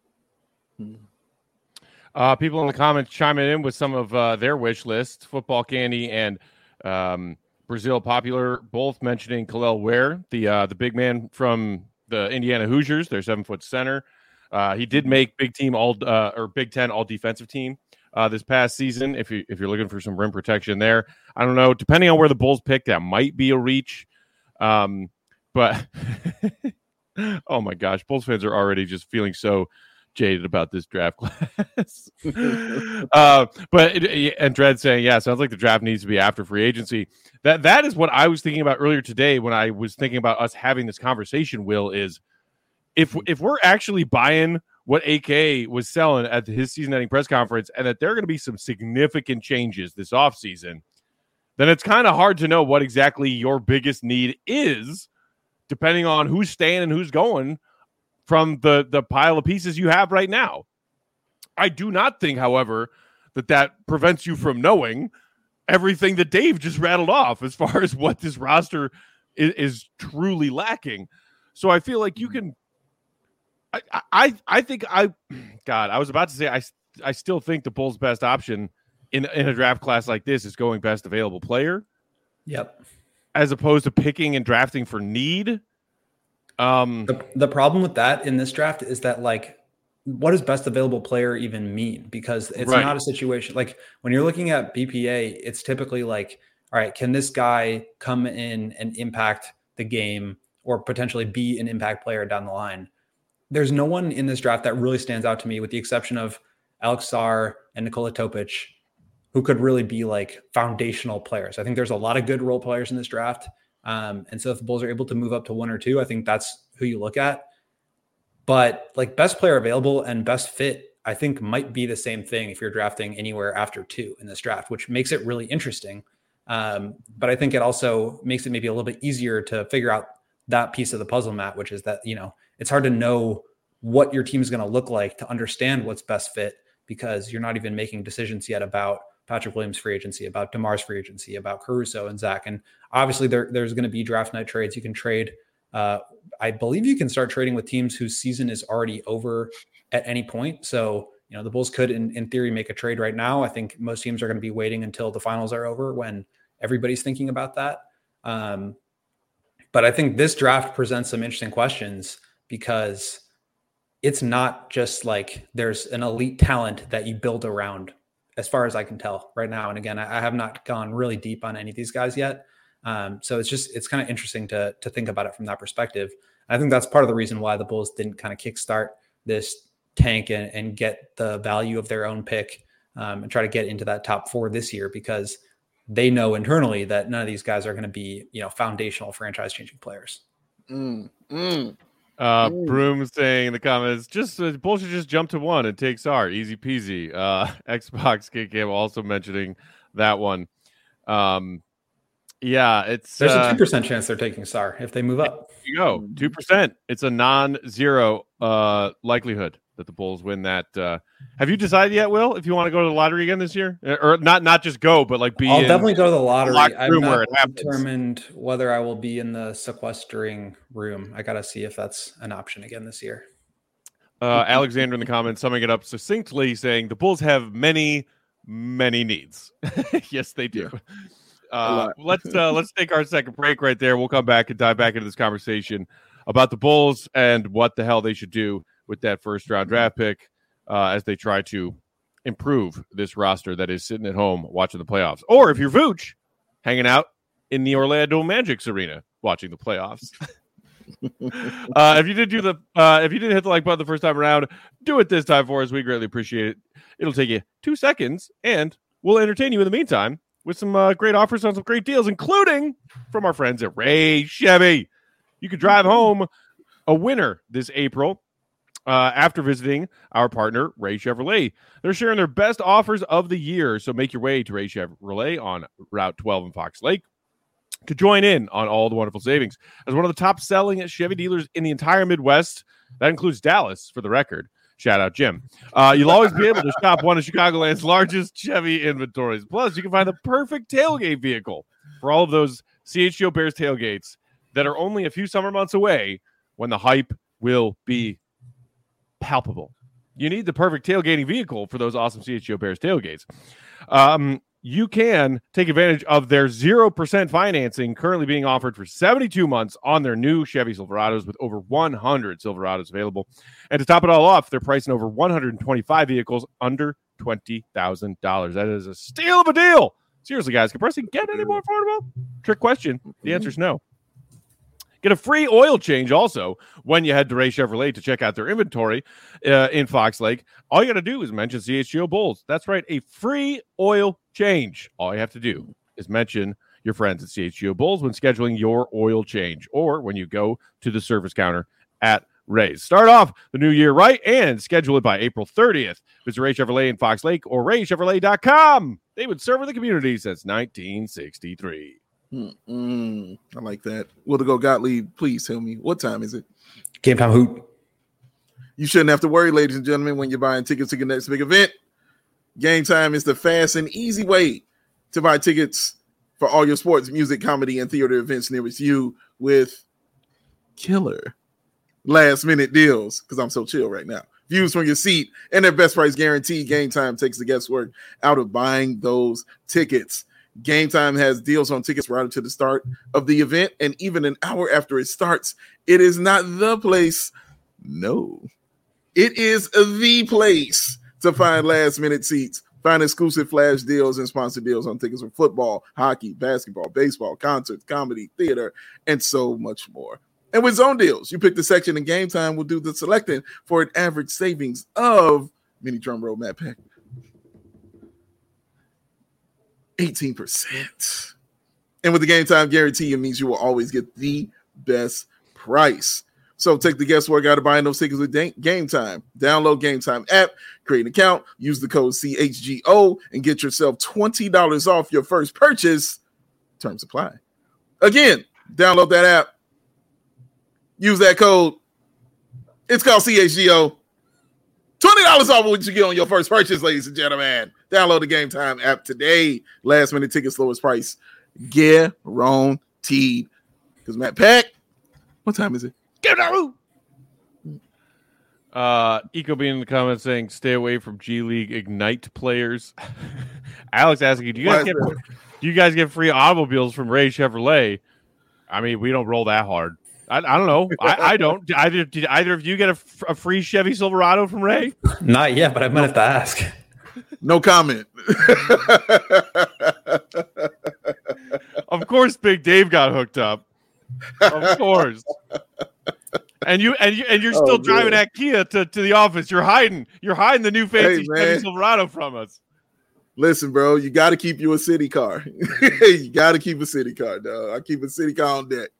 Uh, people in the comments chiming in with some of uh, their wish list. Football Candy and um, Brazil Popular both mentioning Kel'el Ware, the uh, the big man from the Indiana Hoosiers, their seven foot center. Uh, he did make Big Team all uh, or Big Ten all defensive team uh, this past season. If you if you're looking for some rim protection there, I don't know. Depending on where the Bulls pick, that might be a reach. Um, but oh my gosh, Bulls fans are already just feeling so jaded about this draft class. uh, but it, and Dredd saying, yeah, sounds like the draft needs to be after free agency. That that is what I was thinking about earlier today when I was thinking about us having this conversation. Will is if if we're actually buying what A K was selling at his season-ending press conference, and that there are going to be some significant changes this offseason, then it's kind of hard to know what exactly your biggest need is, depending on who's staying and who's going from the, the pile of pieces you have right now. I do not think, however, that that prevents you from knowing everything that Dave just rattled off as far as what this roster is, is truly lacking. So I feel like you can I, I I think I God, I was about to say I, I still think the Bulls' best option in, in a draft class like this is going best available player. Yep. As opposed to picking and drafting for need. Um, the, the problem with that in this draft is that, like, what does best available player even mean? Because it's right. not a situation like when you're looking at B P A, it's typically like, all right, can this guy come in and impact the game or potentially be an impact player down the line? There's no one in this draft that really stands out to me with the exception of Alex Sarr and Nikola Topic, who could really be like foundational players. I think there's a lot of good role players in this draft. Um, and so if the Bulls are able to move up to one or two, I think that's who you look at. But like best player available and best fit, I think might be the same thing if you're drafting anywhere after two in this draft, which makes it really interesting. Um, but I think it also makes it maybe a little bit easier to figure out that piece of the puzzle, Matt, which is that, you know, it's hard to know what your team is going to look like to understand what's best fit because you're not even making decisions yet about Patrick Williams' free agency, about DeMar's free agency, about Caruso and Zach. And obviously there, there's going to be draft night trades. You can trade. Uh, I believe you can start trading with teams whose season is already over at any point. So, you know, the Bulls could, in, in theory, make a trade right now. I think most teams are going to be waiting until the finals are over when everybody's thinking about that. Um, but I think this draft presents some interesting questions because it's not just like there's an elite talent that you build around, as far as I can tell right now. And again, I, I have not gone really deep on any of these guys yet. Um, so it's just, it's kind of interesting to, to think about it from that perspective. I think that's part of the reason why the Bulls didn't kind of kickstart this tank and, and get the value of their own pick um, and try to get into that top four this year, because they know internally that none of these guys are going to be, you know, foundational franchise changing players. Mm, mm, uh, mm. Broom saying in the comments, just uh, Bulls should just jump to one and take Sarr, easy peasy. Uh, Xbox Kick Game also mentioning that one. Um, Yeah, it's there's uh, a two percent chance they're taking Sarr if they move up. There you go, two percent. It's a non-zero uh, likelihood that the Bulls win that. Uh, have you decided yet, Will, if you want to go to the lottery again this year, or not? Not just go, but like be. I'll in definitely go to the lottery. The I've room not where it happens. determined whether I will be in the sequestering room. I got to see if that's an option again this year. Uh, Alexander in the comments summing it up succinctly, saying the Bulls have many, many needs. Yes, they do. Yeah. Uh, let's uh, let's take our second break right there. We'll come back and dive back into this conversation about the Bulls and what the hell they should do with that first round draft pick uh, as they try to improve this roster that is sitting at home watching the playoffs. Or if you're Vooch, hanging out in the Orlando Magic's arena watching the playoffs. uh, if you did do the uh, if you didn't hit the like button the first time around, do it this time for us. We greatly appreciate it. It'll take you two seconds, and we'll entertain you in the meantime with some uh, great offers on some great deals, including from our friends at Ray Chevy. You could drive home a winner this April uh, after visiting our partner, Ray Chevrolet. They're sharing their best offers of the year, so make your way to Ray Chevrolet on Route twelve in Fox Lake to join in on all the wonderful savings. As one of the top-selling Chevy dealers in the entire Midwest, that includes Dallas, for the record. Shout out, Jim. Uh, you'll always be able to shop one of Chicagoland's largest Chevy inventories. Plus, you can find the perfect tailgate vehicle for all of those C H G O Bears tailgates that are only a few summer months away when the hype will be palpable. You need the perfect tailgating vehicle for those awesome C H G O Bears tailgates. Um, you can take advantage of their zero percent financing currently being offered for seventy-two months on their new Chevy Silverados with over one hundred Silverados available. And to top it all off, they're pricing over one hundred twenty-five vehicles under twenty thousand dollars. That is a steal of a deal. Seriously, guys, can pricing get any more affordable? Trick question. The answer is no. Get a free oil change also when you head to Ray Chevrolet to check out their inventory uh, in Fox Lake. All you got to do is mention C H G O Bulls. That's right, a free oil change. All you have to do is mention your friends at C H G O Bulls when scheduling your oil change or when you go to the service counter at Ray's. Start off the new year right and schedule it by April thirtieth. Visit Ray Chevrolet in Fox Lake or ray chevrolet dot com. They've been serving the community since nineteen sixty-three. Mm-mm. I like that. Will to go Gottlieb, please tell me, what time is it? Game time hoot. You shouldn't have to worry, ladies and gentlemen, when you're buying tickets to your next big event. Game Time is the fast and easy way to buy tickets for all your sports, music, comedy, and theater events nearest you with killer last minute deals, because I'm so chill right now. Views from your seat and their best price guarantee. Game Time takes the guesswork out of buying those tickets. Game Time has deals on tickets right up to the start of the event, and even an hour after it starts. It is not the place. No, It is the place to find last minute seats. Find exclusive flash deals and sponsored deals on tickets for football, hockey, basketball, baseball, concerts, comedy, theater, and so much more. And with Zone Deals, you pick the section and Game Time will do the selecting for an average savings of, mini drum roll, Matt Peck, eighteen percent. And with the Game Time guarantee, it means you will always get the best price. So take the guesswork out of buying those tickets with Game Time. Download Game Time app, create an account, use the code C H G O, and get yourself twenty dollars off your first purchase. Terms apply. Again, download that app. Use that code. It's called C H G O. twenty dollars off what you get on your first purchase, ladies and gentlemen. Download the Game Time app today. Last minute tickets, lowest price. Guaranteed. Because Matt Peck, what time is it? Get out! Uh, Eco being in the comments saying, "Stay away from G League Ignite players." Alex asking, "Do you guys get do you guys get free automobiles from Ray Chevrolet?" I mean, we don't roll that hard. I, I don't know. I, I don't. Either did either of you get a, a free Chevy Silverado from Ray? Not yet, but I might have to ask. No comment. Of course, Big Dave got hooked up. Of course. And you and you and you're still oh, driving that Kia to, to the office. You're hiding. You're hiding the new fancy hey, Chevy Silverado from us. Listen, bro, you got to keep you a city car. You got to keep a city car, dog. I keep a city car on deck.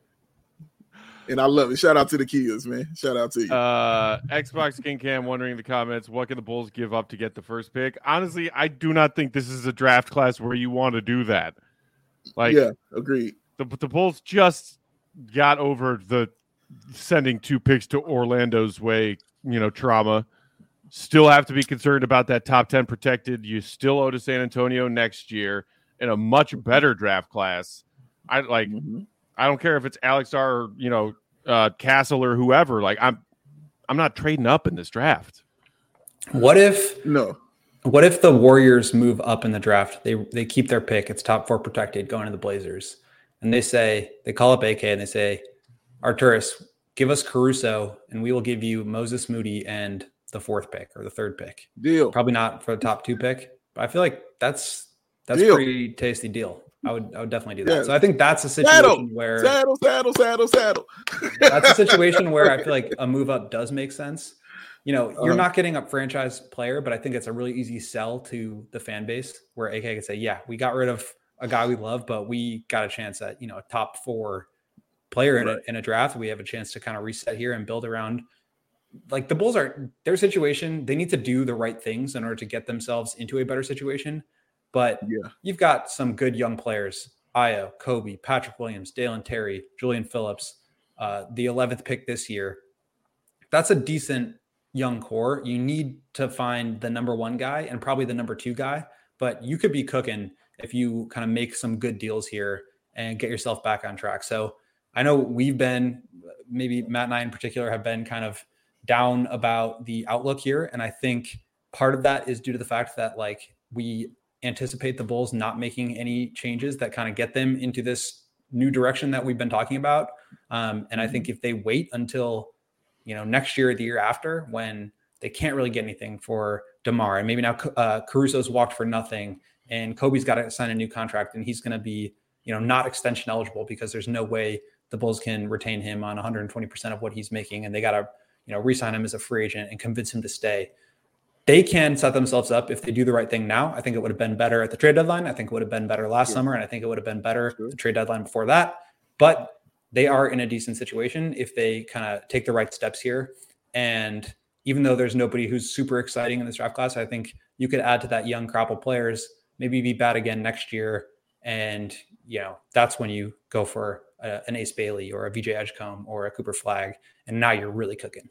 And I love it. Shout out to the Kias, man. Shout out to you. Uh, Xbox King Cam wondering in the comments, what can the Bulls give up to get the first pick? Honestly, I do not think this is a draft class where you want to do that. Like, yeah, agreed. The, the Bulls just got over the sending two picks to Orlando's way, you know, trauma. Still have to be concerned about that top ten protected. You still owe to San Antonio next year in a much better draft class. I like. Mm-hmm. I don't care if it's Alex R. or, you know, uh, Castle or whoever. Like, I'm, I'm not trading up in this draft. What if no? What if the Warriors move up in the draft? They they keep their pick. It's top four protected, going to the Blazers, and they say they call up A K and they say, Arturas, give us Caruso, and we will give you Moses Moody and the fourth pick or the third pick. Deal. Probably not for the top two pick, but I feel like that's that's deal. a pretty tasty deal. I would I would definitely do that. Yeah. So I think that's a situation saddle, where saddle, saddle, saddle, saddle. That's a situation where I feel like a move up does make sense. You know, you're uh-huh. not getting a franchise player, but I think it's a really easy sell to the fan base where A K can say, yeah, we got rid of a guy we love, but we got a chance at, you know, a top four player in, right. a, in a draft. We have a chance to kind of reset here and build around. Like the Bulls are their situation. They need to do the right things in order to get themselves into a better situation. But yeah. you've got some good young players, Ayo, Kobe, Patrick Williams, Dalen Terry, Julian Phillips, uh, the eleventh pick this year. That's a decent young core. You need to find the number one guy and probably the number two guy, but you could be cooking if you kind of make some good deals here and get yourself back on track. So I know we've been, maybe Matt and I in particular have been kind of down about the outlook here. And I think part of that is due to the fact that like we anticipate the Bulls not making any changes that kind of get them into this new direction that we've been talking about. Um, and I think if they wait until, you know, next year or the year after, when they can't really get anything for DeMar, and maybe now uh, Caruso's walked for nothing and Kobe's got to sign a new contract and he's going to be, you know, not extension eligible because there's no way the Bulls can retain him on one hundred twenty percent of what he's making. And they got to, you know, re-sign him as a free agent and convince him to stay. They can set themselves up if they do the right thing now. I think it would have been better at the trade deadline. I think it would have been better last yeah. summer. And I think it would have been better at the trade deadline before that. But they are in a decent situation if they kind of take the right steps here. And even though there's nobody who's super exciting in this draft class, I think you could add to that young crop of players, maybe be bad again next year. And, you know, that's when you go for a, an Ace Bailey or a V J Edgecombe or a Cooper Flagg. And now you're really cooking.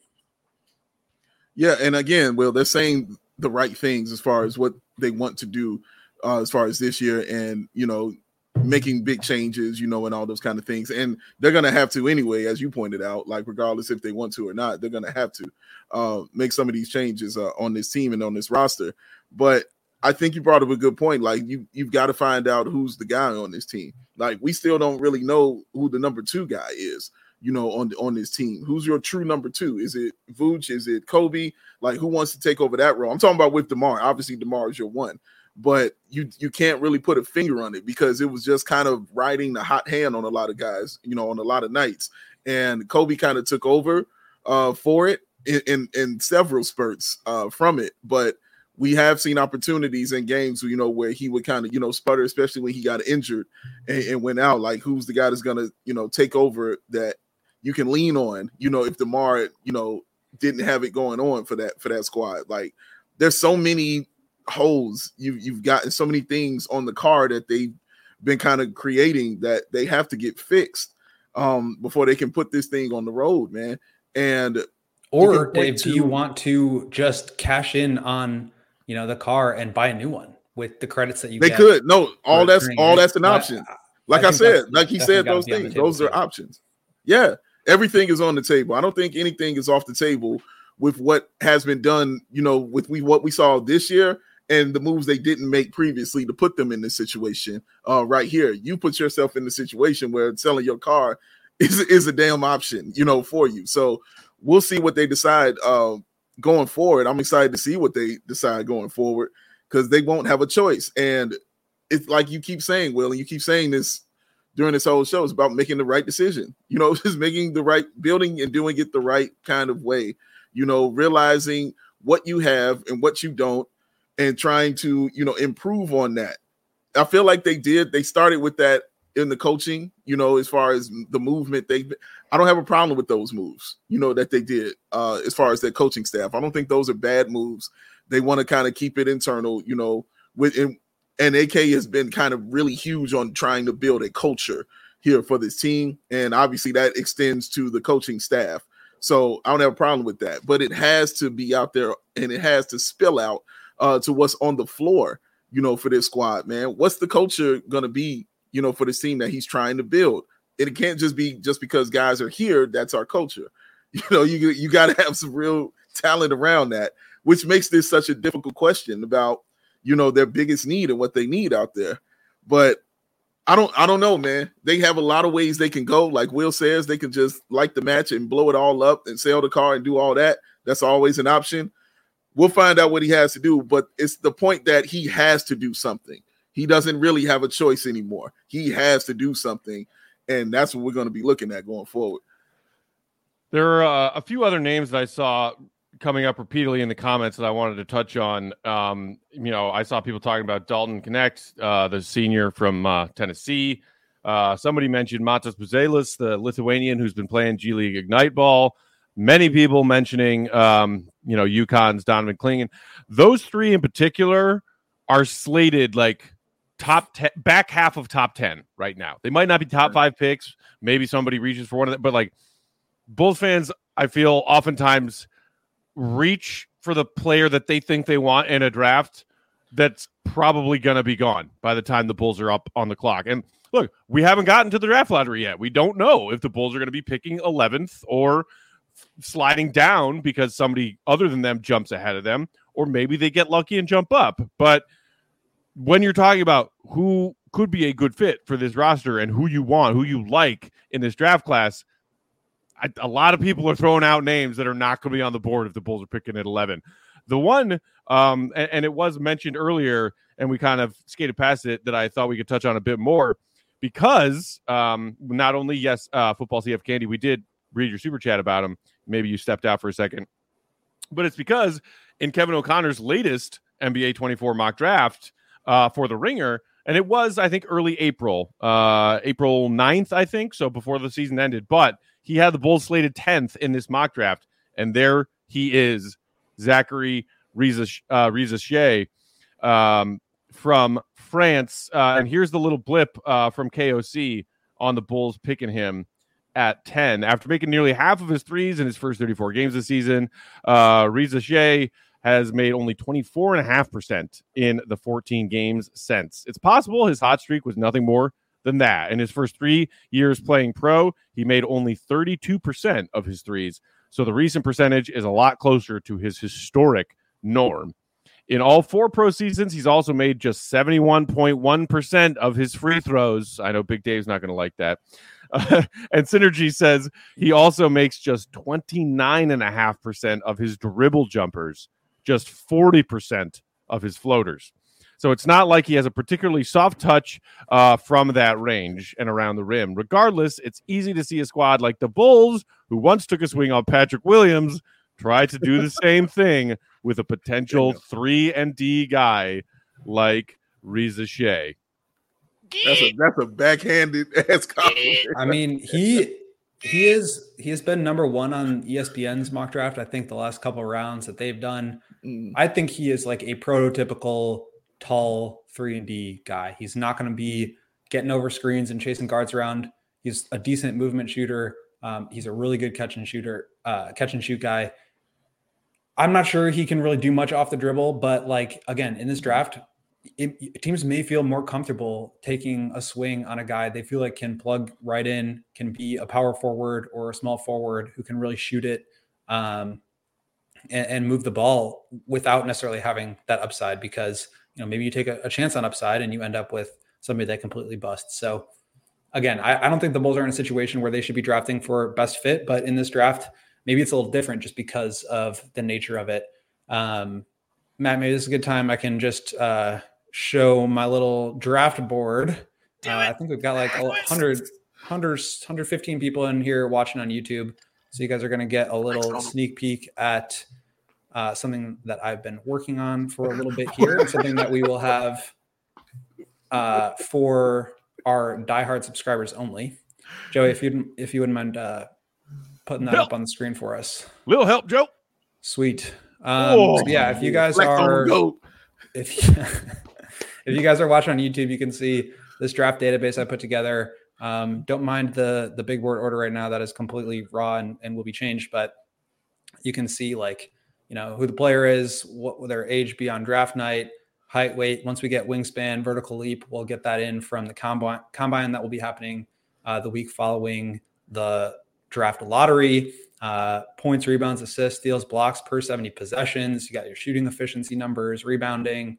Yeah, and again, Will, they're saying the right things as far as what they want to do uh, as far as this year and, you know, making big changes, you know, and all those kind of things. And they're going to have to anyway, as you pointed out, like regardless if they want to or not, they're going to have to uh, make some of these changes uh, on this team and on this roster. But I think you brought up a good point. Like you, you've got to find out who's the guy on this team. Like we still don't really know who the number two guy is. you know, on on this team? Who's your true number two? Is it Vooch? Is it Kobe? Like, who wants to take over that role? I'm talking about with DeMar. Obviously, DeMar is your one, but you you can't really put a finger on it because it was just kind of riding the hot hand on a lot of guys, you know, on a lot of nights. And Kobe kind of took over uh, for it in, in, in several spurts uh, from it. But we have seen opportunities in games, you know, where he would kind of, you know, sputter, especially when he got injured and, and went out. Like, who's the guy that's going to, you know, take over that you can lean on, you know, if DeMar, you know, didn't have it going on for that, for that squad. Like, there's so many holes you, you've gotten, so many things on the card that they've been kind of creating that they have to get fixed um, before they can put this thing on the road, man. And or Dave, to, do you want to just cash in on, you know, the car and buy a new one with the credits that you they get? could. No, all that's all that's an but option. Like I, I said, like he said, those things, those too. are options. Yeah, everything is on the table. I don't think anything is off the table with what has been done, you know, with we what we saw this year and the moves they didn't make previously to put them in this situation. Uh, right here, you put yourself in the situation where selling your car is is a damn option, you know, for you. So we'll see what they decide uh, going forward. I'm excited to see what they decide going forward because they won't have a choice. And it's like you keep saying, Will, and you keep saying this during this whole show, it's about making the right decision. You know, just making the right building and doing it the right kind of way. You know, realizing what you have and what you don't and trying to, you know, improve on that. I feel like they did. They started with that in the coaching, you know, as far as the movement. They, I don't have a problem with those moves, you know, that they did uh, as far as their coaching staff. I don't think those are bad moves. They want to kind of keep it internal, you know, with and, and A K has been kind of really huge on trying to build a culture here for this team. And obviously that extends to the coaching staff. So I don't have a problem with that, but it has to be out there and it has to spill out uh, to what's on the floor, you know, for this squad, man. What's the culture going to be, you know, for this team that he's trying to build? It can't just be just because guys are here, that's our culture. You know, you, you got to have some real talent around that, which makes this such a difficult question about, you know, their biggest need and what they need out there. But I don't, I don't know, man. They have a lot of ways they can go. Like Will says, they can just like the match and blow it all up and sell the car and do all that. That's always an option. We'll find out what he has to do, but it's the point that he has to do something. He doesn't really have a choice anymore. He has to do something, and that's what we're going to be looking at going forward. There are uh, a few other names that I saw coming up repeatedly in the comments that I wanted to touch on. Um, you know, I saw people talking about Dalton Knecht, uh, the senior from uh, Tennessee. Uh, somebody mentioned Matas Buzelis, the Lithuanian who's been playing G League Ignite Ball. Many people mentioning, um, you know, UConn's Donovan Clingan. Those three in particular are slated like top ten, back half of top ten right now. They might not be top five picks. Maybe somebody reaches for one of them, but like Bulls fans, I feel oftentimes reach for the player that they think they want in a draft that's probably going to be gone by the time the Bulls are up on the clock. And look, we haven't gotten to the draft lottery yet. We don't know if the Bulls are going to be picking eleventh or sliding down because somebody other than them jumps ahead of them, or maybe they get lucky and jump up. But when you're talking about who could be a good fit for this roster and who you want, who you like in this draft class, I, a lot of people are throwing out names that are not going to be on the board if the Bulls are picking at eleven. The one, um, and, and it was mentioned earlier, and we kind of skated past it, that I thought we could touch on a bit more because um, not only, yes, uh, Football C F Candy, we did read your super chat about him. Maybe you stepped out for a second. But it's because in Kevin O'Connor's latest N B A twenty-four mock draft uh, for the Ringer, and it was, I think, early April, uh, April ninth, I think, so before the season ended. But he had the Bulls slated tenth in this mock draft, and there he is, Zachary Rizache uh, um, from France. Uh, and here's the little blip uh, from K O C on the Bulls picking him at ten. After making nearly half of his threes in his first thirty-four games this season, uh, Rizache has made only twenty-four point five percent in the fourteen games since. It's possible his hot streak was nothing more than that. In his first three years playing pro, he made only thirty-two percent of his threes. So the recent percentage is a lot closer to his historic norm. In all four pro seasons, he's also made just seventy-one point one percent of his free throws. I know Big Dave's not going to like that. Uh, and Synergy says he also makes just twenty-nine point five percent of his dribble jumpers, just forty percent of his floaters. So it's not like he has a particularly soft touch uh, from that range and around the rim. Regardless, it's easy to see a squad like the Bulls, who once took a swing on Patrick Williams, try to do the same thing with a potential three and D guy like Reza Shea. That's a that's a backhanded ass compliment. I mean, he he is he has been number one on E S P N's mock draft. I think the last couple of rounds that they've done. Mm. I think he is like a prototypical tall three and D guy. He's not going to be getting over screens and chasing guards around. He's a decent movement shooter. Um, he's a really good catch and shooter, uh, catch and shoot guy. I'm not sure he can really do much off the dribble, but like, again, in this draft, it, teams may feel more comfortable taking a swing on a guy they feel like can plug right in, can be a power forward or a small forward who can really shoot it um, and, and move the ball without necessarily having that upside, because you know, maybe you take a, a chance on upside and you end up with somebody that completely busts. So again, I, I don't think the Bulls are in a situation where they should be drafting for best fit, but in this draft, maybe it's a little different just because of the nature of it. Um, Matt, maybe this is a good time. I can just uh, show my little draft board. Uh, I think we've got like one hundred, one hundred, one hundred fifteen people in here watching on YouTube. So you guys are going to get a little sneak peek at Uh, something that I've been working on for a little bit here, and something that we will have uh, for our diehard subscribers only. Joey, if you if you wouldn't mind uh, putting that help. up on the screen for us. Little help, Joe. Sweet. Um, oh, so yeah, if you guys are if if you guys are watching on YouTube, you can see this draft database I put together. Um, don't mind the the big board order right now; that is completely raw and, and will be changed. But you can see like. You know, who the player is, what will their age be on draft night, height, weight. Once we get wingspan, vertical leap, we'll get that in from the combine, combine that will be happening uh, the week following the draft lottery. Uh, points, rebounds, assists, steals, blocks per seventy possessions. You got your shooting efficiency numbers, rebounding,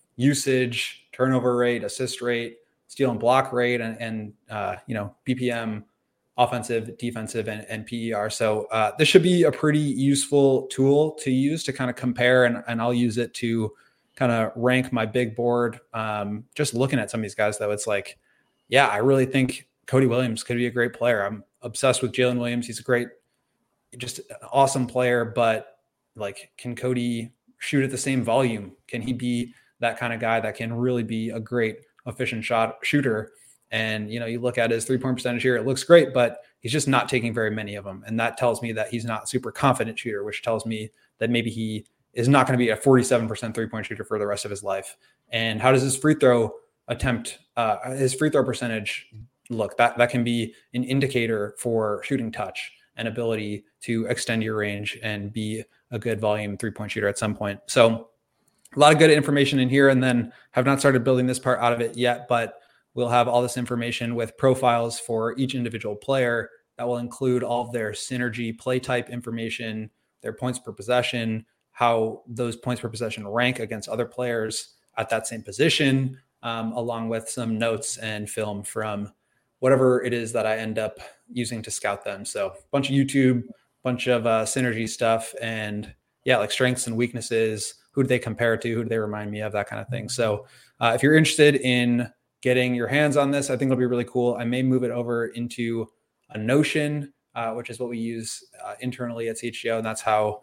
usage, turnover rate, assist rate, steal and block rate, and, and uh, you know, B P M, offensive, defensive, and, and P E R. So uh, this should be a pretty useful tool to use to kind of compare, and, and I'll use it to kind of rank my big board. Um, just looking at some of these guys, though, it's like, yeah, I really think Cody Williams could be a great player. I'm obsessed with Jalen Williams. He's a great, just an awesome player, but like, can Cody shoot at the same volume? Can he be that kind of guy that can really be a great efficient shot shooter? And, you know, you look at his three-point percentage here, it looks great, but he's just not taking very many of them. And that tells me that he's not super confident shooter, which tells me that maybe he is not going to be a forty-seven percent three-point shooter for the rest of his life. And how does his free throw attempt, uh, his free throw percentage look? That, that can be an indicator for shooting touch and ability to extend your range and be a good volume three-point shooter at some point. So a lot of good information in here, and then have not started building this part out of it yet, but we'll have all this information with profiles for each individual player that will include all of their synergy play type information, their points per possession, how those points per possession rank against other players at that same position, um, along with some notes and film from whatever it is that I end up using to scout them. So a bunch of YouTube, bunch of uh, synergy stuff, and yeah, like strengths and weaknesses, who do they compare to, who do they remind me of, that kind of thing. So uh, if you're interested in getting your hands on this, I think it'll be really cool. I may move it over into a Notion, uh, which is what we use uh, internally at C H G O. And that's how,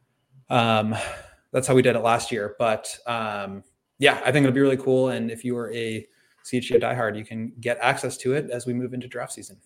um, that's how we did it last year. But um, yeah, I think it'll be really cool. And if you are a C H G O diehard, you can get access to it as we move into draft season.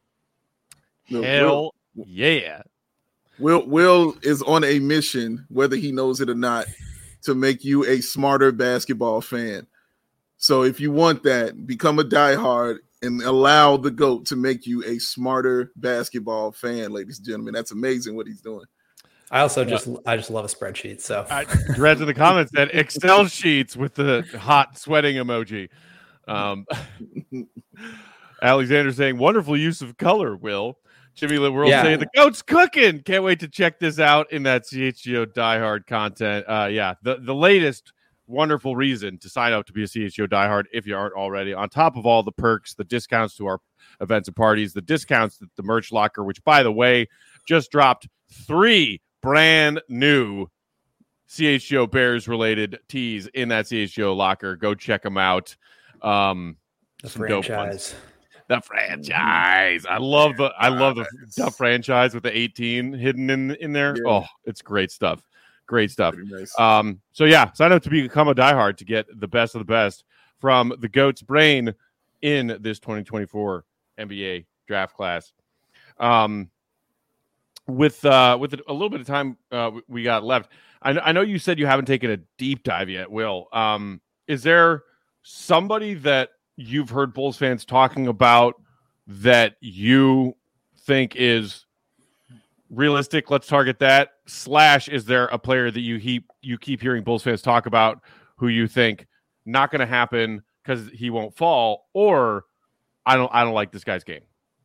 Hell yeah. Will Will is on a mission, whether he knows it or not, to make you a smarter basketball fan. So if you want that, become a diehard and allow the GOAT to make you a smarter basketball fan, ladies and gentlemen. That's amazing what he's doing. I also yeah. just I just love a spreadsheet. So I read in the comments that Excel sheets with the hot sweating emoji. Um, Alexander saying wonderful use of color, Will. Jimmy Lit World yeah. saying the GOAT's cooking. Can't wait to check this out in that C H G O diehard content. Uh, yeah, the, the latest wonderful reason to sign up to be a C H G O diehard if you aren't already. On top of all the perks, the discounts to our events and parties. The discounts at the merch locker, which, by the way, just dropped three brand new C H G O Bears related tees in that C H G O locker. Go check them out. Um, the franchise. The franchise. I love the I love the, the franchise with the eighteen hidden in in there. Yeah. Oh, it's great stuff. Great stuff. Nice. Um, so yeah, sign up to become a diehard to get the best of the best from the GOAT's brain in this twenty twenty-four N B A draft class. Um, with uh, with a little bit of time uh, we got left, I, I know you said you haven't taken a deep dive yet, Will. Um, is there somebody that you've heard Bulls fans talking about that you think is realistic? Let's target that. Slash, is there a player that you keep you keep hearing Bulls fans talk about who you think not going to happen because he won't fall, or I don't I don't like this guy's game?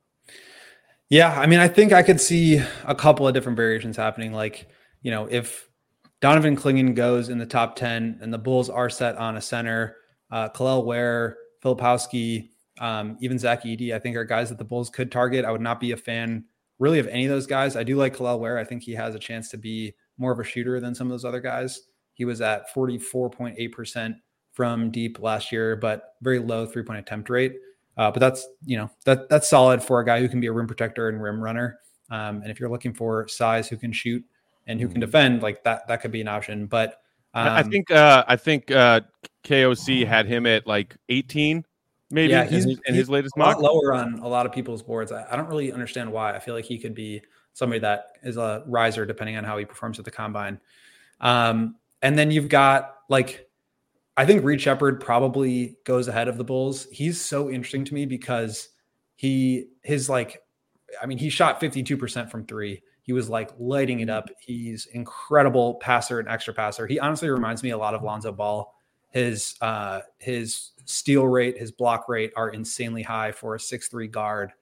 Yeah, I mean, I think I could see a couple of different variations happening. Like, you know, if Donovan Clingan goes in the top ten and the Bulls are set on a center, uh, Kel'el Ware, Filipowski, um, even Zach Edey, I think are guys that the Bulls could target. I would not be a fan really of any of those guys. I do like Kel'el Ware. I think he has a chance to be more of a shooter than some of those other guys. He was at forty-four point eight percent from deep last year, but very low three-point attempt rate. Uh, but that's, you know, that that's solid for a guy who can be a rim protector and rim runner. Um, and if you're looking for size who can shoot and who can defend, like that, that could be an option. But um, I think uh, I think uh, K O C had him at like eighteen, maybe. Yeah, he's in, in he's his latest a mock. lot lower on a lot of people's boards. I, I don't really understand why. I feel like he could be somebody that is a riser depending on how he performs at the combine. Um, and then you've got like, I think Reed Shepherd probably goes ahead of the Bulls. He's so interesting to me because he his like, I mean, he shot fifty-two percent from three. He was like lighting it up. He's incredible passer and extra passer. He honestly reminds me a lot of Lonzo Ball. His uh, his steal rate, his block rate are insanely high for a six three guard.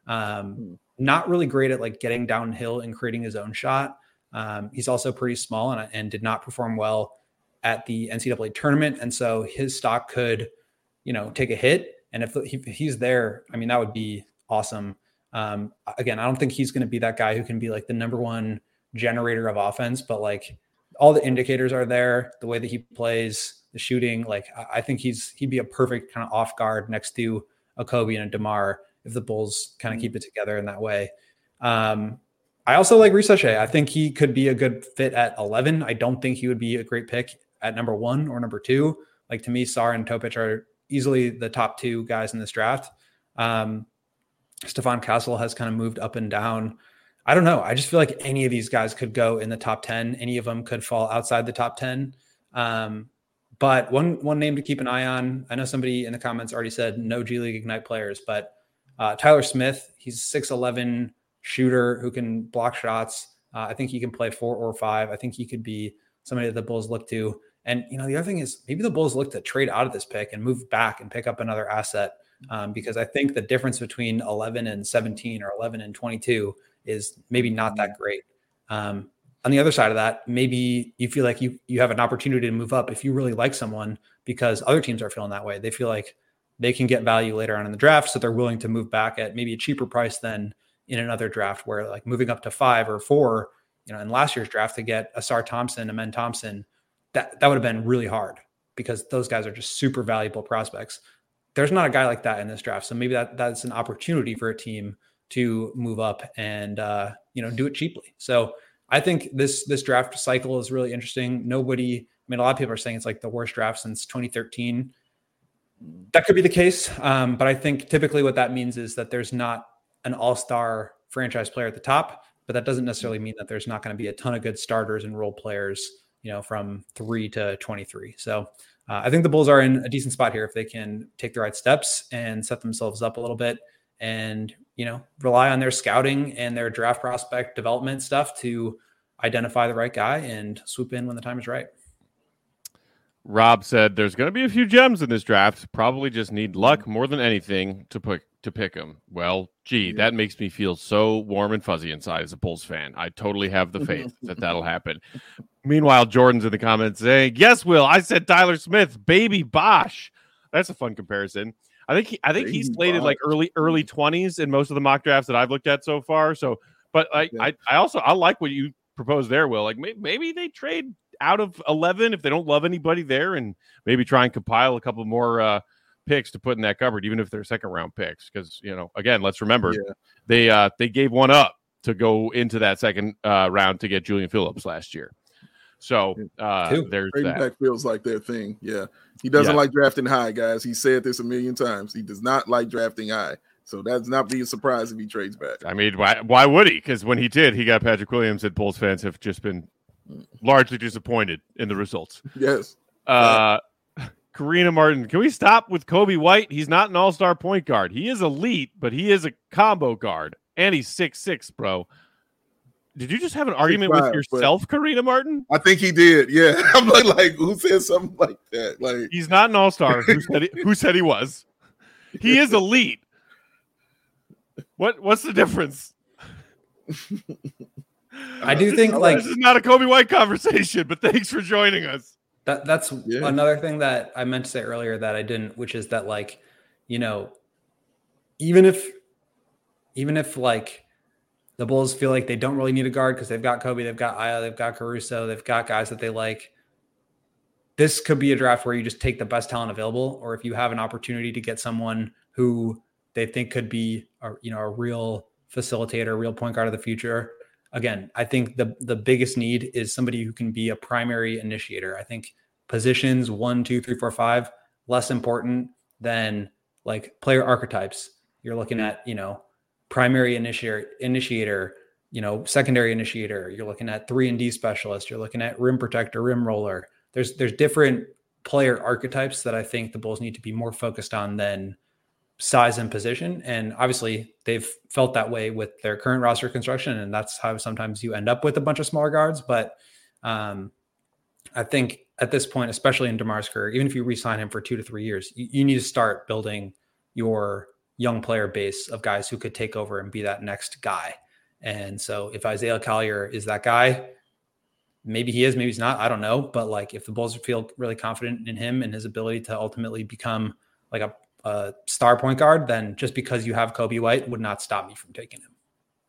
Um, not really great at like getting downhill and creating his own shot. Um, he's also pretty small and, and did not perform well at the N C double A tournament. And so his stock could, you know, take a hit. And if, he, if he's there, I mean, that would be awesome. Um, again, I don't think he's going to be that guy who can be like the number one generator of offense, but like all the indicators are there, the way that he plays, the shooting. Like I think he's, he'd be a perfect kind of off guard next to a Kobe and a DeMar if the Bulls kind of keep it together in that way. Um, I also like Reese Shea. I think he could be a good fit at eleven. I don't think he would be a great pick at number one or number two. Like to me, Sarr and Topic are easily the top two guys in this draft. Um, Stephon Castle has kind of moved up and down. I don't know. I just feel like any of these guys could go in the top ten. Any of them could fall outside the top ten. Um, but one, one name to keep an eye on, I know somebody in the comments already said no G League Ignite players, but uh, Tyler Smith, he's six eleven shooter who can block shots. Uh, I think he can play four or five. I think he could be somebody that the Bulls look to. And, you know, the other thing is maybe the Bulls look to trade out of this pick and move back and pick up another asset. Um, because I think the difference between eleven and seventeen or eleven and twenty-two is maybe not that great. Um, on the other side of that, maybe you feel like you you have an opportunity to move up if you really like someone because other teams are feeling that way. They feel like they can get value later on in the draft, so they're willing to move back at maybe a cheaper price than in another draft where like moving up to five or four, you know, in last year's draft to get Asar Thompson, Amen Thompson, that, that would have been really hard because those guys are just super valuable prospects. There's not a guy like that in this draft. So maybe that that's an opportunity for a team to move up and, uh, you know, do it cheaply. So I think this, this draft cycle is really interesting. Nobody, I mean, a lot of people are saying it's like the worst draft since twenty thirteen. That could be the case. Um, but I think typically what that means is that there's not an all-star franchise player at the top, but that doesn't necessarily mean that there's not going to be a ton of good starters and role players, you know, from three to twenty-three. So Uh, I think the Bulls are in a decent spot here if they can take the right steps and set themselves up a little bit and, you know, rely on their scouting and their draft prospect development stuff to identify the right guy and swoop in when the time is right. Rob said there's going to be a few gems in this draft. Probably just need luck more than anything to put to pick them. Well, gee, that makes me feel so warm and fuzzy inside as a Bulls fan. I totally have the faith that that'll happen. Meanwhile, Jordan's in the comments saying, yes, Will, I said Tyler Smith, baby Bosh. That's a fun comparison. I think he, I think he's slated like early early twenties in most of the mock drafts that I've looked at so far. So, but I yeah. I, I also I like what you proposed there, Will. Like maybe, maybe they trade out of eleven if they don't love anybody there, and maybe try and compile a couple more uh, picks to put in that cupboard, even if they're second round picks. Because you know, again, let's remember yeah. they uh, they gave one up to go into that second uh, round to get Julian Phillips last year. So uh, there's Trading that. back feels like their thing. Yeah. He doesn't yeah. like drafting high, guys. He said this a million times. He does not like drafting high. So that's not be a surprise if he trades back. I mean, why why would he? Because when he did, he got Patrick Williams, and Bulls fans have just been largely disappointed in the results. Yes. Uh, Karina Martin, can we stop with Kobe White? He's not an all-star point guard. He is elite, but he is a combo guard. And he's six six, bro. Did you just have an argument five, with yourself, Karina Martin? I think he did. Yeah, I'm like, like, who said something like that? Like, he's not an all-star. Who said he, who said he was? He is elite. What What's the difference? I do think like this is not a Kobe White conversation, but thanks for joining us. That that's yeah. another thing that I meant to say earlier that I didn't, which is that like, you know, even if, even if like. The Bulls feel like they don't really need a guard because they've got Kobe, they've got Aya, they've got Caruso, they've got guys that they like. This could be a draft where you just take the best talent available, or if you have an opportunity to get someone who they think could be a, you know, a real facilitator, a real point guard of the future. Again, I think the the biggest need is somebody who can be a primary initiator. I think positions one, two, three, four, five, less important than like player archetypes. You're looking at, you know, primary initiator, initiator, you know, secondary initiator. You're looking at three and D specialist. You're looking at rim protector, rim roller. There's there's different player archetypes that I think the Bulls need to be more focused on than size and position. And obviously they've felt that way with their current roster construction. And that's how sometimes you end up with a bunch of smaller guards. But um, I think at this point, especially in DeMar's career, even if you re-sign him for two to three years, you, you need to start building your young player base of guys who could take over and be that next guy. And so if Isaiah Collier is that guy, maybe he is, maybe he's not, I don't know. But like, if the Bulls feel really confident in him and his ability to ultimately become like a, a star point guard, then just because you have Kobe White would not stop me from taking him.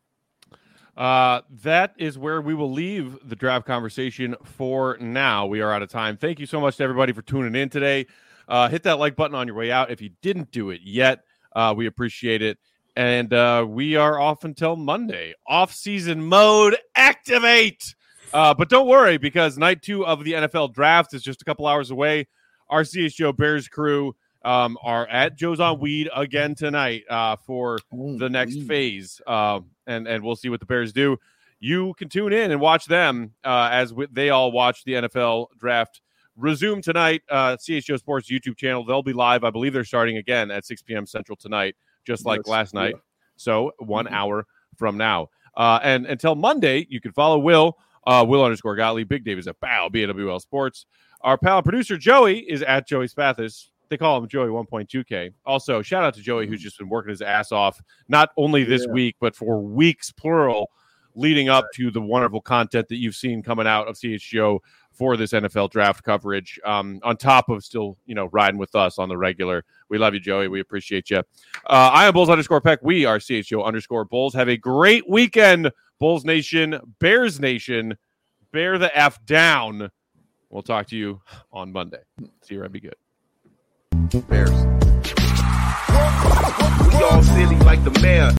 Uh, that is where we will leave the draft conversation for now. We are out of time. Thank you so much to everybody for tuning in today. Uh, hit that like button on your way out if you didn't do it yet. Uh, we appreciate it. And uh, we are off until Monday. Off-season mode, activate! Uh, but don't worry, because night two of the N F L draft is just a couple hours away. Our C H G O Bears crew um, are at Joe's on Weed again tonight uh, for oh, the next geez. phase. Uh, and, and we'll see what the Bears do. You can tune in and watch them uh, as we, they all watch the N F L draft resume tonight. uh, C H G O Sports YouTube channel. They'll be live. I believe they're starting again at six p.m. Central tonight, just like yes, last night. Yeah. So one mm-hmm. hour from now. Uh, and until Monday, you can follow Will, uh, Will underscore Gottlieb. Big Dave is at Bow, B A W L Sports. Our pal producer Joey is at Joey Spathis. They call him Joey one point two K. Also, shout out to Joey, mm-hmm. who's just been working his ass off, not only this yeah. week, but for weeks, plural, leading up to the wonderful content that you've seen coming out of C H G O for this N F L draft coverage, um, on top of still, you know, riding with us on the regular. We love you, Joey. We appreciate you. Uh, I am Bulls underscore Peck. We are C H G O underscore Bulls. Have a great weekend, Bulls Nation, Bears Nation. Bear the F down. We'll talk to you on Monday. See you around. Be good. Bears. We all silly like the mayor.